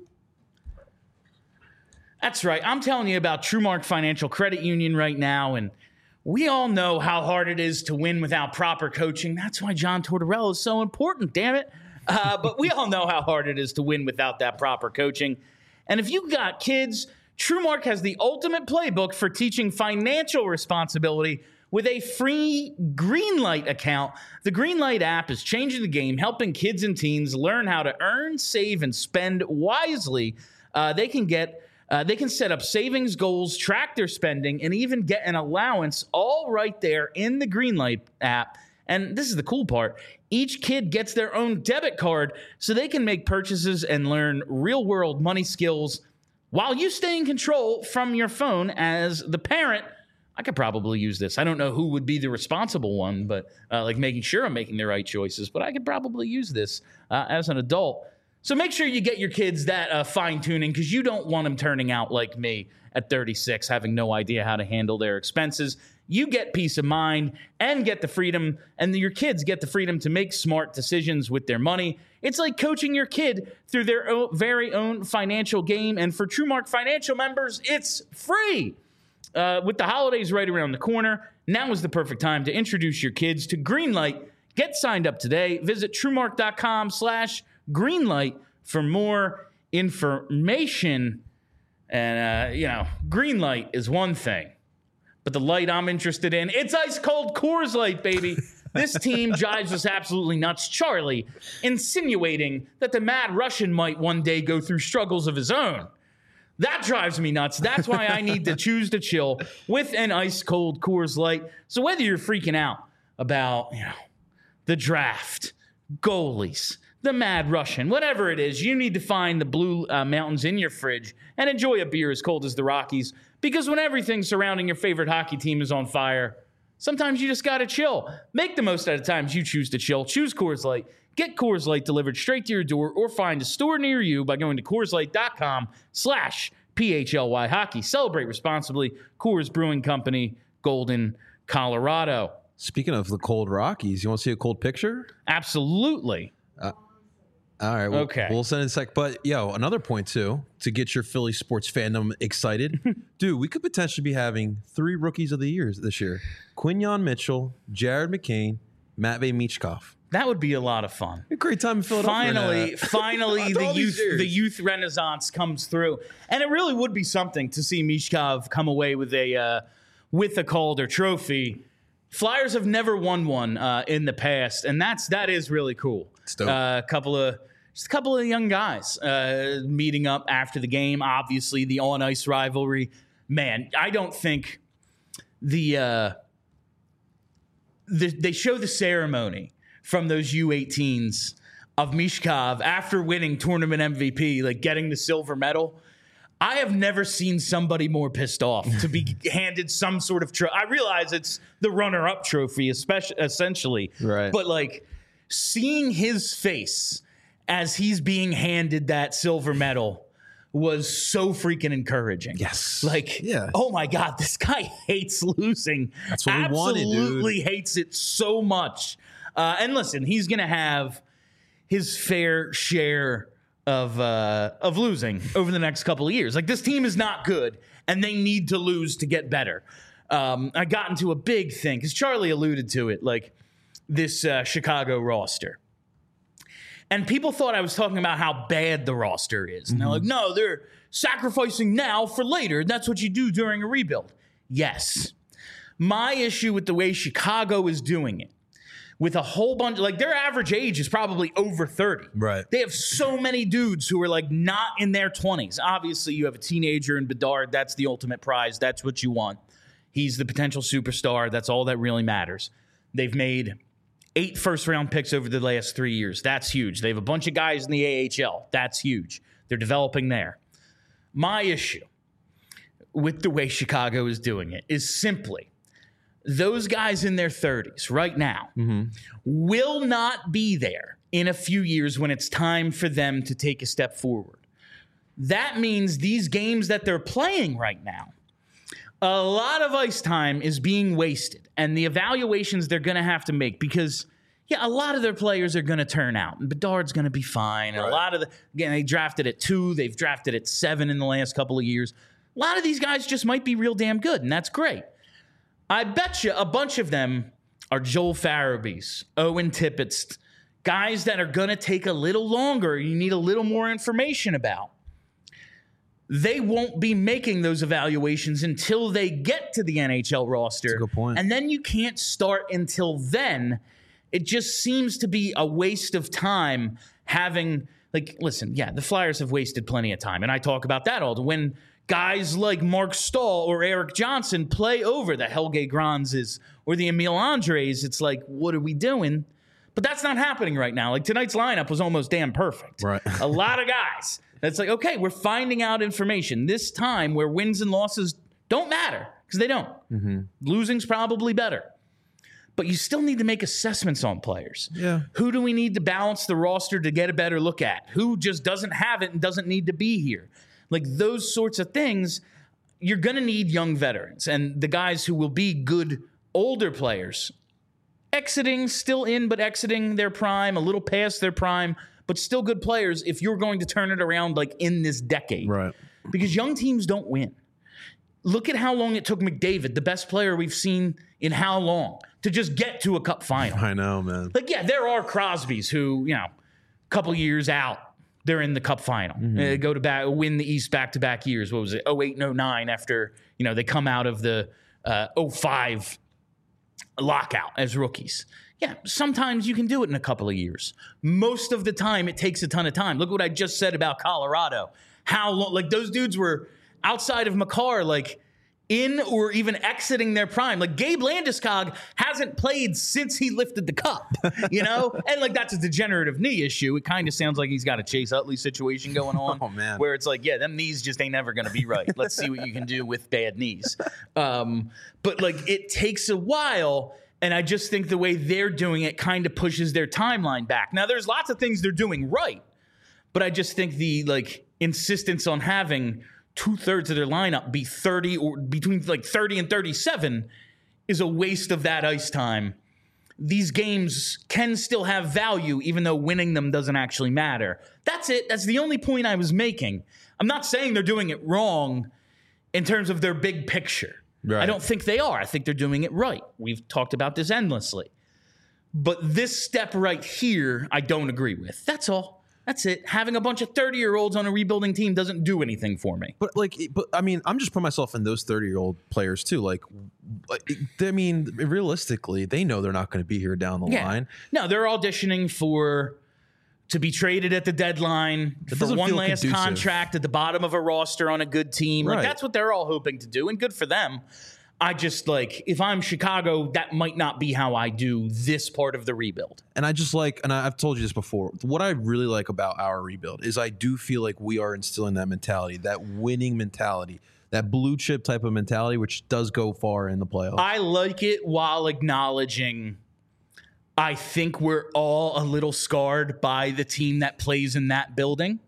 That's right. I'm telling you about TrueMark Financial Credit Union right now, and we all know how hard it is to win without proper coaching. That's why John Tortorella is so important, damn it. Uh, but we all know how hard it is to win without that proper coaching. And if you got kids, TrueMark has the ultimate playbook for teaching financial responsibility with a free Greenlight account. The Greenlight app is changing the game, helping kids and teens learn how to earn, save, and spend wisely. Uh, they can get Uh, they can set up savings goals, track their spending, and even get an allowance all right there in the Greenlight app. And this is the cool part. Each kid gets their own debit card so they can make purchases and learn real-world money skills while you stay in control from your phone as the parent. I could probably use this. I don't know who would be the responsible one, but uh, like making sure I'm making the right choices. But I could probably use this uh, as an adult. So make sure you get your kids that uh, fine-tuning, because you don't want them turning out like me at thirty-six, having no idea how to handle their expenses. You get peace of mind and get the freedom, and your kids get the freedom to make smart decisions with their money. It's like coaching your kid through their own, very own financial game. And for TrueMark Financial members, it's free. Uh, with the holidays right around the corner, now is the perfect time to introduce your kids to Greenlight. Get signed up today. Visit TrueMark.com slash Greenlight for more information. And, uh, you know, Greenlight is one thing, but the light I'm interested in, it's ice cold Coors Light, baby. This team drives us absolutely nuts. Charlie insinuating that the Mad Russian might one day go through struggles of his own. That drives me nuts. That's why I need to choose to chill with an ice cold Coors Light. So whether you're freaking out about, you know, the draft, goalies, the Mad Russian, whatever it is, you need to find the Blue uh, Mountains in your fridge and enjoy a beer as cold as the Rockies, because when everything surrounding your favorite hockey team is on fire, sometimes you just got to chill. Make the most out of times you choose to chill. Choose Coors Light. Get Coors Light delivered straight to your door, or find a store near you by going to CoorsLight.com slash PHLY Hockey. Celebrate responsibly. Coors Brewing Company, Golden, Colorado. Speaking of the cold Rockies, you want to see a cold picture? Absolutely. Uh, all right. We'll, okay. We'll send it in a sec. But, yo, another point, too, to get your Philly sports fandom excited. Dude, we could potentially be having three rookies of the year this year. Quinyon Mitchell, Jared McCain, Matvei Mishkov. That would be a lot of fun. A great time in Philadelphia. Finally, finally, the youth, the youth renaissance comes through, and it really would be something to see Mishkov come away with a uh, with a Calder Trophy. Flyers have never won one uh, in the past, and that's that is really cool. A uh, couple of just a couple of young guys uh, meeting up after the game. Obviously, the on ice rivalry. Man, I don't think the, uh, the they show the ceremony from those U eighteens of Mishkov after winning tournament M V P, like getting the silver medal. I have never seen somebody more pissed off to be handed some sort of trophy. I realize it's the runner-up trophy, especially essentially, right? But like seeing his face as he's being handed that silver medal was so freaking encouraging. Yes, like yeah. Oh my God, this guy hates losing. That's what Absolutely we wanted, dude. hates it so much. Uh, and listen, he's gonna have his fair share of uh, of losing over the next couple of years. Like, this team is not good, and they need to lose to get better. Um, I got into a big thing, because Charlie alluded to it, like this uh, Chicago roster. And people thought I was talking about how bad the roster is. And they're like, no, they're sacrificing now for later. That's what you do during a rebuild. Yes. My issue with the way Chicago is doing it, with a whole bunch, like their average age is probably over thirty. Right. They have so many dudes who are like not in their twenties. Obviously, you have a teenager in Bedard. That's the ultimate prize. That's what you want. He's the potential superstar. That's all that really matters. They've made eight first-round picks over the last three years. That's huge. They have a bunch of guys in the A H L. That's huge. They're developing there. My issue with the way Chicago is doing it is simply those guys in their thirties right now mm-hmm. will not be there in a few years when it's time for them to take a step forward. That means these games that they're playing right now, a lot of ice time is being wasted, and the evaluations they're going to have to make, because, yeah, a lot of their players are going to turn out, and Bedard's going to be fine. And right. a lot of the, again, they drafted at two, they've drafted at seven in the last couple of years. A lot of these guys just might be real damn good, and that's great. I bet you a bunch of them are Joel Farabees, Owen Tippett's, guys that are going to take a little longer. You need a little more information about. They won't be making those evaluations until they get to the N H L roster. That's a good point. And then you can't start until then. It just seems to be a waste of time having, like, listen, yeah, the Flyers have wasted plenty of time. And I talk about that all the when guys like Mark Stahl or Eric Johnson play over the Helge Granzes or the Emil Andres. It's like, what are we doing? But that's not happening right now. Like, tonight's lineup was almost damn perfect. Right. A lot of guys. It's like, okay, we're finding out information this time where wins and losses don't matter, because they don't. Mm-hmm. Losing's probably better. But you still need to make assessments on players. Yeah. Who do we need to balance the roster to get a better look at? Who just doesn't have it and doesn't need to be here? Like, those sorts of things, you're going to need young veterans. And the guys who will be good older players, exiting, still in, but exiting their prime, a little past their prime, but still good players if you're going to turn it around like in this decade. Right. Because young teams don't win. Look at how long it took McDavid, the best player we've seen in how long, to just get to a cup final. I know, man. Like, yeah, there are Crosbys who, you know, a couple years out, they're in the cup final. Mm-hmm. They go to back, win the East back-to-back years. What was it, oh eight and oh nine, after, you know, they come out of the uh, oh five lockout as rookies. Yeah, sometimes you can do it in a couple of years. Most of the time, it takes a ton of time. Look what I just said about Colorado. How long, like, those dudes were outside of Makar, like, in or even exiting their prime. Like, Gabe Landeskog hasn't played since he lifted the cup, you know? And, like, that's a degenerative knee issue. It kind of sounds like he's got a Chase Utley situation going on. Oh, man. Where it's like, yeah, them knees just ain't never going to be right. Let's see what you can do with bad knees. Um, but, like, it takes a while. And I just think the way they're doing it kind of pushes their timeline back. Now, there's lots of things they're doing right, but I just think the, like, insistence on having two-thirds of their lineup be thirty or between, like, thirty and thirty-seven is a waste of that ice time. These games can still have value, even though winning them doesn't actually matter. That's it. That's the only point I was making. I'm not saying they're doing it wrong in terms of their big picture. Right. I don't think they are. I think they're doing it right. We've talked about this endlessly. But this step right here, I don't agree with. That's all. That's it. Having a bunch of thirty-year-olds on a rebuilding team doesn't do anything for me. But, like, but I mean, I'm just putting myself in those thirty-year-old players, too. Like, I mean, realistically, they know they're not going to be here down the yeah. line. No, they're auditioning for to be traded at the deadline for one last conducive. contract at the bottom of a roster on a good team. Right. Like, that's what they're all hoping to do, and good for them. I just like, if I'm Chicago, that might not be how I do this part of the rebuild. And I just like, and I've told you this before, what I really like about our rebuild is I do feel like we are instilling that mentality, that winning mentality, that blue chip type of mentality, which does go far in the playoffs. I like it while acknowledging I think we're all a little scarred by the team that plays in that building.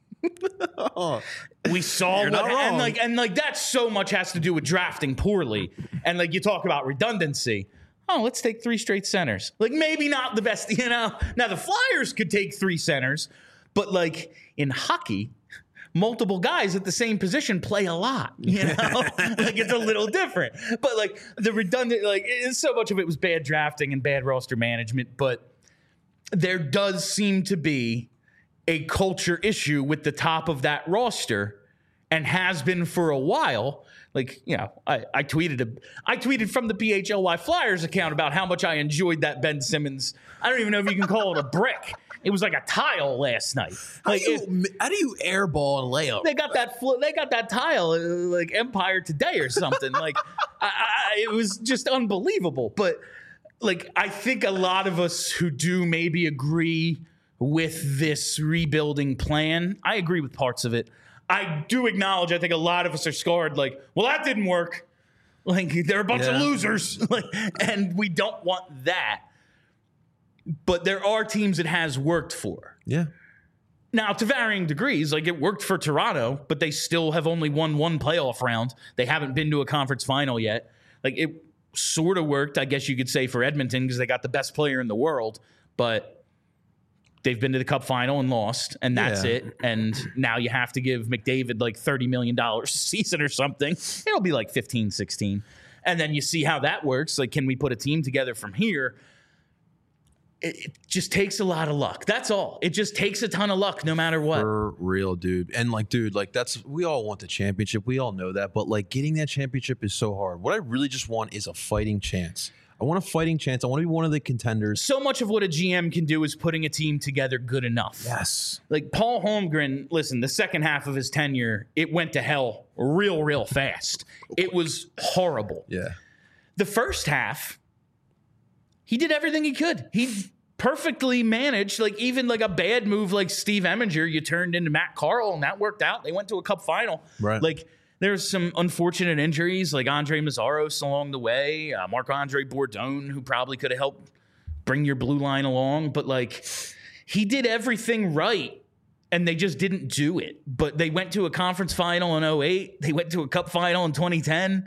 oh, we saw You're what, not wrong. and like and like that so much has to do with drafting poorly. And like you talk about redundancy. Oh, let's take three straight centers. Like maybe not the best, you know. Now the Flyers could take three centers, but like in hockey, multiple guys at the same position play a lot, you know. Like it's a little different. But like the redundant, like it's so much of it was bad drafting and bad roster management. But there does seem to be a culture issue with the top of that roster, and has been for a while. Like, you know, I, I tweeted a, I tweeted from the P H L Y Flyers account about how much I enjoyed that Ben Simmons. I don't even know if you can call it a brick. It was like a tile last night. Like, how, do you, it, how do you airball and layup? they got that fl- they got that tile uh, like Empire Today or something. Like I, I, it was just unbelievable. But like I think a lot of us who do maybe agree with this rebuilding plan, I agree with parts of it. I do acknowledge I think a lot of us are scarred. Like, well, that didn't work. Like they're a bunch Yeah. of losers, like, and we don't want that. But there are teams it has worked for. Yeah. Now, to varying degrees, like it worked for Toronto, but they still have only won one playoff round. They haven't been to a conference final yet. Like it sort of worked, I guess you could say, for Edmonton because they got the best player in the world, but they've been to the Cup final and lost, and that's Yeah. it. And now you have to give McDavid like thirty million dollars a season or something. It'll be like fifteen, sixteen. And then you see how that works. Like, can we put a team together from here? It, it just takes a lot of luck. That's all. It just takes a ton of luck no matter what. For real, dude. And like, dude, like that's, we all want the championship. We all know that. But like getting that championship is so hard. What I really just want is a fighting chance. I want a fighting chance. I want to be one of the contenders. So much of what a G M can do is putting a team together good enough. Yes. Like Paul Holmgren, listen, the second half of his tenure, it went to hell real, real fast. It was horrible. Yeah. The first half, he did everything he could. He perfectly managed, like even like a bad move like Steve Eminger, you turned into Matt Carl, and that worked out. They went to a Cup final. Right. Like there's some unfortunate injuries, like Andre Mazzaros along the way, uh, Marc-Andre Bourdon, who probably could have helped bring your blue line along. But like he did everything right, and they just didn't do it. But they went to a conference final in oh eight. They went to a Cup final in twenty ten.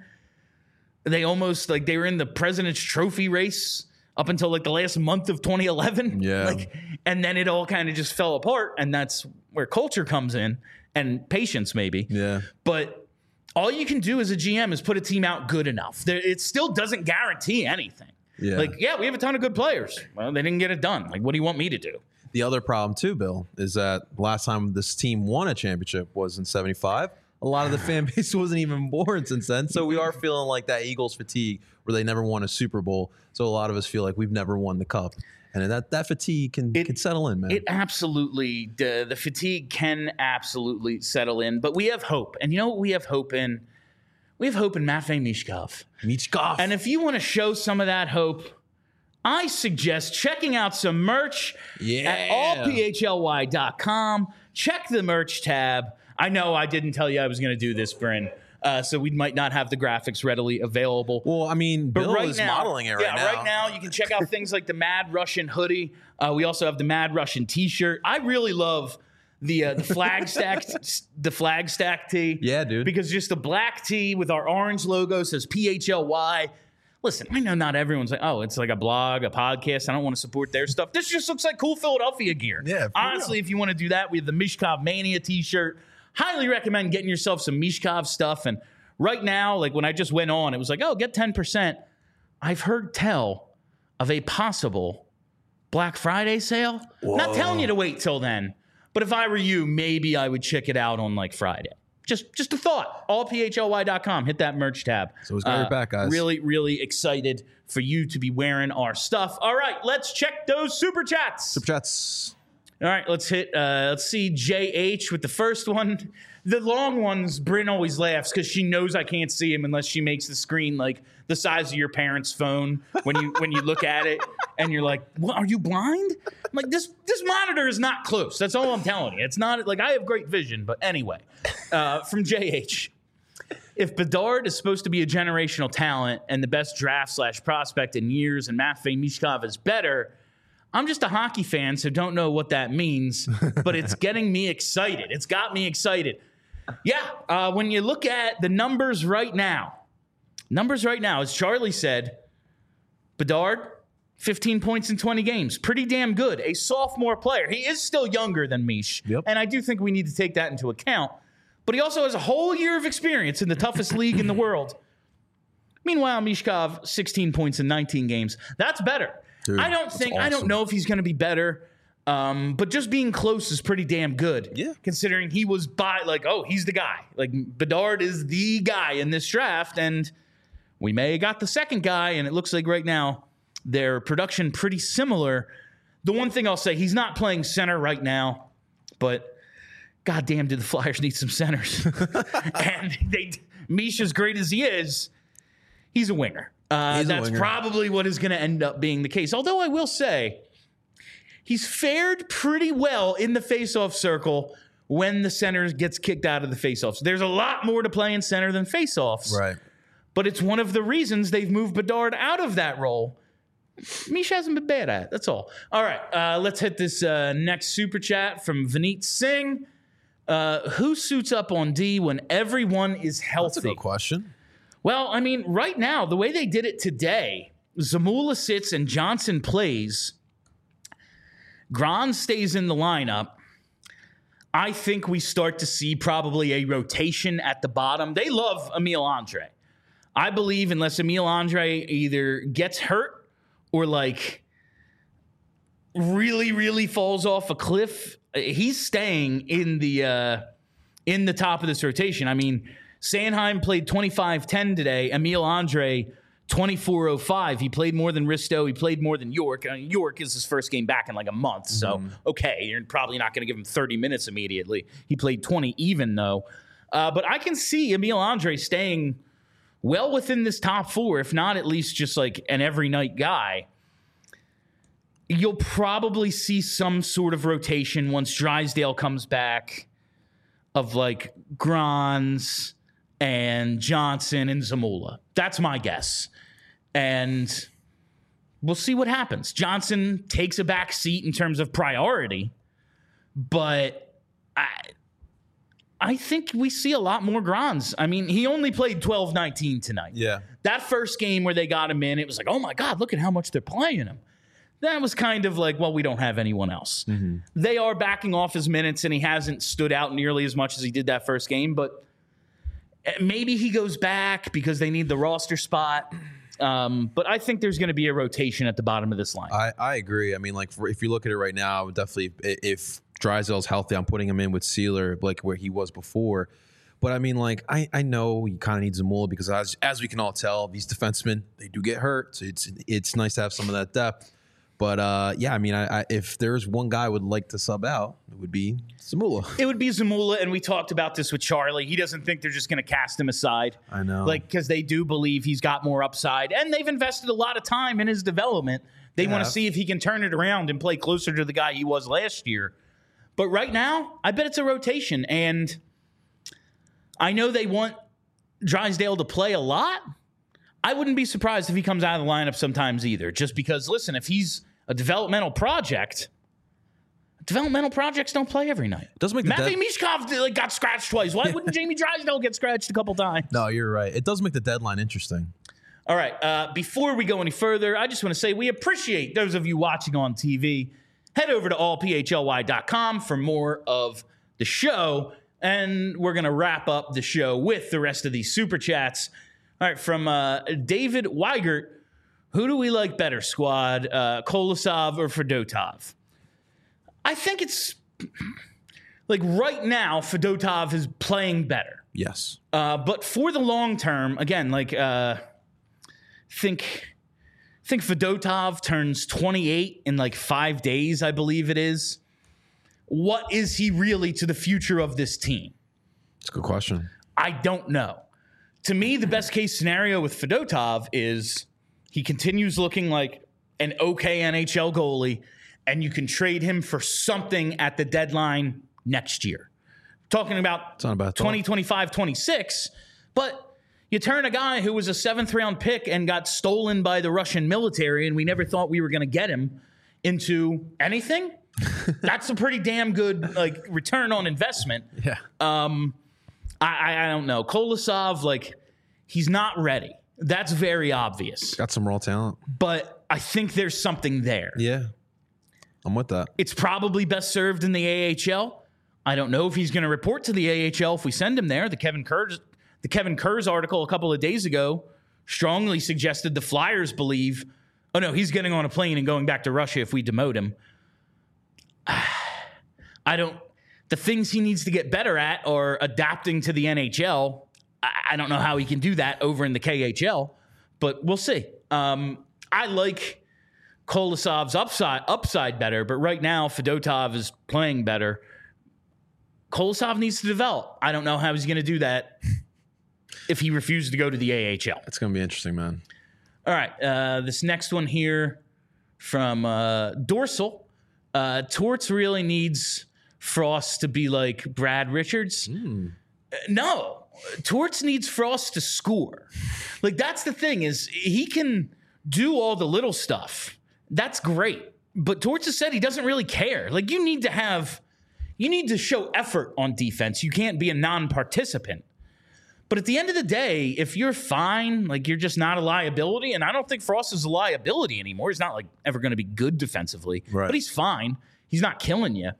They almost, like, they were in the President's Trophy race up until, like, the last month of twenty eleven. Yeah. Like, and then it all kind of just fell apart, and that's where culture comes in, and patience maybe. Yeah. But all you can do as a G M is put a team out good enough. There, it still doesn't guarantee anything. Yeah. Like, yeah, we have a ton of good players. Well, they didn't get it done. Like, what do you want me to do? The other problem too, Bill, is that last time this team won a championship was in seventy-five. A lot of the fan base wasn't even born since then. So we are feeling like that Eagles fatigue where they never won a Super Bowl. So a lot of us feel like we've never won the Cup. And that, that fatigue can, It- can settle in, man. It absolutely, the, the fatigue can absolutely settle in, but we have hope. And you know what we have hope in? We have hope in Matvei Mishkov. Michkov. And if you want to show some of that hope, I suggest checking out some merch Yeah. at all p h l y dot com. Check the merch tab. I know I didn't tell you I was going to do this, Bryn, uh, so we might not have the graphics readily available. well, I mean, But Bill right is now, modeling it right yeah, now. right now you can check out things like the Mad Russian hoodie. Uh, we also have the Mad Russian T-shirt. I really love the uh, the flag stack the flag stack tee. Yeah, dude. Because just the black tee with our orange logo says P H L Y. Listen, I know not everyone's like, oh, it's like a blog, a podcast. I don't want to support their stuff. This just looks like cool Philadelphia gear. Yeah, for honestly, if you want to do that, we have the Mishkov Mania T-shirt. Highly recommend getting yourself some Mishkov stuff. And right now, like when I just went on, it was like, oh, get ten percent. I've heard tell of a possible Black Friday sale. Not telling you to wait till then, but if I were you, maybe I would check it out on like Friday. Just just a thought. all p h l y dot com. Hit that merch tab. So it's got your back, guys. Really, really excited for you to be wearing our stuff. All right, let's check those super chats. Super chats. All right, let's hit. Uh, let's see J H with the first one. The long ones, Bryn always laughs because she knows I can't see him unless she makes the screen like the size of your parents' phone when you when you look at it and you're like, "What? Are you blind?" I'm like, this this monitor is not close. That's all I'm telling you. It's not like I have great vision, but anyway, uh, from J H. If Bedard is supposed to be a generational talent and the best draft slash prospect in years, and Matvei Michkov is better. I'm just a hockey fan, so don't know what that means, but it's getting me excited. It's got me excited. Yeah, uh, when you look at the numbers right now, numbers right now, as Charlie said, Bedard, fifteen points in twenty games. Pretty damn good. A sophomore player. He is still younger than Mish, yep. and I do think we need to take that into account. But he also has a whole year of experience in the toughest league in the world. Meanwhile, Michkov, sixteen points in nineteen games. That's better. Dude, I don't think, awesome. I don't know if he's going to be better, um, but just being close is pretty damn good. Yeah. Considering he was by, like, oh, he's the guy. Like, Bedard is the guy in this draft, and we may have got the second guy, and it looks like right now their production pretty similar. The one thing I'll say, he's not playing center right now, but goddamn, did the Flyers need some centers. And they, Mish, as great as he is, he's a winger. Uh, He's a that's winger. probably what is going to end up being the case. Although I will say, he's fared pretty well in the faceoff circle when the center gets kicked out of the faceoffs. There's a lot more to play in center than faceoffs. Right. But it's one of the reasons they've moved Bedard out of that role. Mish hasn't been bad at it. That's all. All right, uh, let's hit this uh, next super chat from Vineet Singh. Uh, who suits up on D when everyone is healthy? That's a good question. Well, I mean, right now, the way they did it today, Zamula sits and Johnson plays. Gron stays in the lineup. I think we start to see probably a rotation at the bottom. They love Emil Andre. I believe unless Emil Andre either gets hurt or like really, really falls off a cliff, he's staying in the uh, in the top of this rotation. I mean, Sanheim played twenty-five ten today. Emil Andre, twenty-four oh five. He played more than Risto. He played more than York. Uh, York is his first game back in like a month. So, mm-hmm. okay, you're probably not going to give him thirty minutes immediately. He played twenty even, though. Uh, but I can see Emil Andre staying well within this top four, if not at least just like an every night guy. You'll probably see some sort of rotation once Drysdale comes back of like Grons and Johnson and Zamula. That's my guess. And we'll see what happens. Johnson takes a back seat in terms of priority, but I I think we see a lot more Grons. I mean, he only played twelve nineteen tonight. Yeah. That first game where they got him in, it was like, oh my God, look at how much they're playing him. That was kind of like, well, we don't have anyone else. Mm-hmm. They are backing off his minutes, and he hasn't stood out nearly as much as he did that first game, but maybe he goes back because they need the roster spot. Um, but I think there's going to be a rotation at the bottom of this line. I, I agree. I mean, like, for, if you look at it right now, I would definitely, if Drysdale's healthy, I'm putting him in with Sealer, like where he was before. But I mean, like, I, I know you kind of need Zamula because as as we can all tell, these defensemen, they do get hurt. So it's it's nice to have some of that depth. But, uh, yeah, I mean, I, I, if there's one guy I would like to sub out, it would be Zamula. It would be Zamula, and we talked about this with Charlie. He doesn't think they're just going to cast him aside. I know. Like, because they do believe he's got more upside, and they've invested a lot of time in his development. They want to see if he can turn it around and play closer to the guy he was last year. But right now, I bet it's a rotation, and I know they want Drysdale to play a lot. I wouldn't be surprised if he comes out of the lineup sometimes either, just because, listen, if he's a developmental project, developmental projects don't play every night. It does make the Matvei dead- Michkov like, got scratched twice. Why wouldn't Jamie Drysdale get scratched a couple times? No, you're right. It does make the deadline interesting. All right. Uh, before we go any further, I just want to say we appreciate those of you watching on T V. Head over to all p h l y dot com for more of the show, and we're going to wrap up the show with the rest of these super chats. All right, from uh, David Weigert, who do we like better, squad, uh, Kolosov or Fedotov? I think it's like right now, Fedotov is playing better. Yes. Uh, but for the long term, again, like uh, think think Fedotov turns twenty-eight in like five days, I believe it is. what is he really to the future of this team? That's a good question. I don't know. To me, the best case scenario with Fedotov is he continues looking like an okay N H L goalie, and you can trade him for something at the deadline next year. Talking about twenty twenty-five twenty-six, but you turn a guy who was a seventh round pick and got stolen by the Russian military, and we never thought we were going to get him, into anything. That's a pretty damn good like return on investment. Yeah. Um, I, I don't know. Kolosov, like, he's not ready. That's very obvious. Got some raw talent. But I think there's something there. Yeah. I'm with that. It's probably best served in the A H L. I don't know if he's going to report to the A H L if we send him there. The Kevin Kurz, the Kevin Kurz article a couple of days ago strongly suggested the Flyers believe, oh, no, he's getting on a plane and going back to Russia if we demote him. I don't... The things he needs to get better at are adapting to the N H L. I, I don't know how he can do that over in the K H L, but we'll see. Um, I like Kolosov's upside upside better, but right now Fedotov is playing better. Kolosov needs to develop. I don't know how he's going to do that if he refuses to go to the A H L. It's going to be interesting, man. All right, uh, this next one here from uh, Dorsal. Uh, Torts really needs Frost to be like Brad Richards. Mm. Uh, no, Torts needs Frost to score. Like, that's the thing, is he can do all the little stuff. That's great. But Torts has said he doesn't really care. Like, you need to have, you need to show effort on defense. You can't be a non-participant. But at the end of the day, if you're fine, like, you're just not a liability, and I don't think Frost is a liability anymore. He's not, like, ever going to be good defensively. Right. But he's fine. He's not killing you.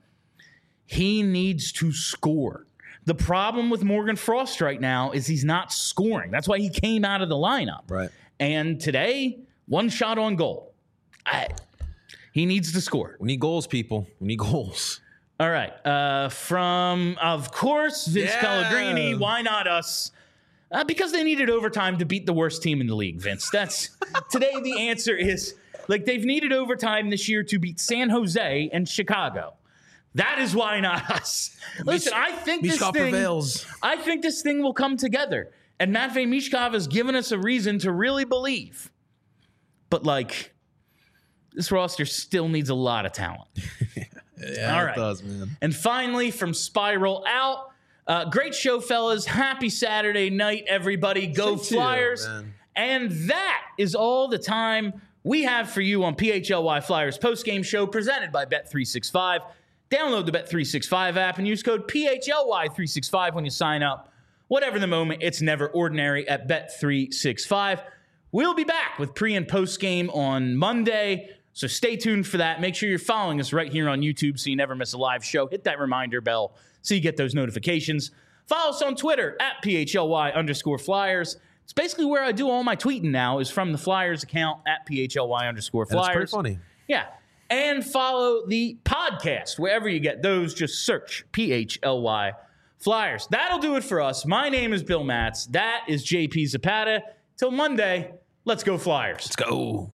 He needs to score. The problem with Morgan Frost right now is he's not scoring. That's why he came out of the lineup. Right. And today, one shot on goal. I, he needs to score. We need goals, people. We need goals. All right. Uh, from, of course, Vince yeah. Pellegrini. Why not us? Uh, because they needed overtime to beat the worst team in the league, Vince. That's today the answer is, like, they've needed overtime this year to beat San Jose and Chicago. That is why not us. Listen, I think this Mishkov thing, prevails. I think this thing will come together. And Matvei Mishkov has given us a reason to really believe. But, like, this roster still needs a lot of talent. yeah, All it right. does, man. And finally, from Spiral Out, uh, great show, fellas. Happy Saturday night, everybody. Go Same Flyers. to you, man. And that is all the time we have for you on P H L Y Flyers postgame show presented by Bet three sixty-five. Download the Bet three sixty-five app and use code P H L Y three sixty-five when you sign up. Whatever the moment, it's never ordinary at Bet three sixty-five. We'll be back with pre- and post-game on Monday, so stay tuned for that. Make sure you're following us right here on YouTube so you never miss a live show. Hit that reminder bell so you get those notifications. Follow us on Twitter at P H L Y underscore Flyers. It's basically where I do all my tweeting now, is from the Flyers account at P H L Y underscore Flyers. That's pretty funny. Yeah. And follow the podcast wherever you get those. Just search P H L Y Flyers. That'll do it for us. My name is Bill Matz. That is J P Zapata. Till Monday, let's go Flyers. Let's go.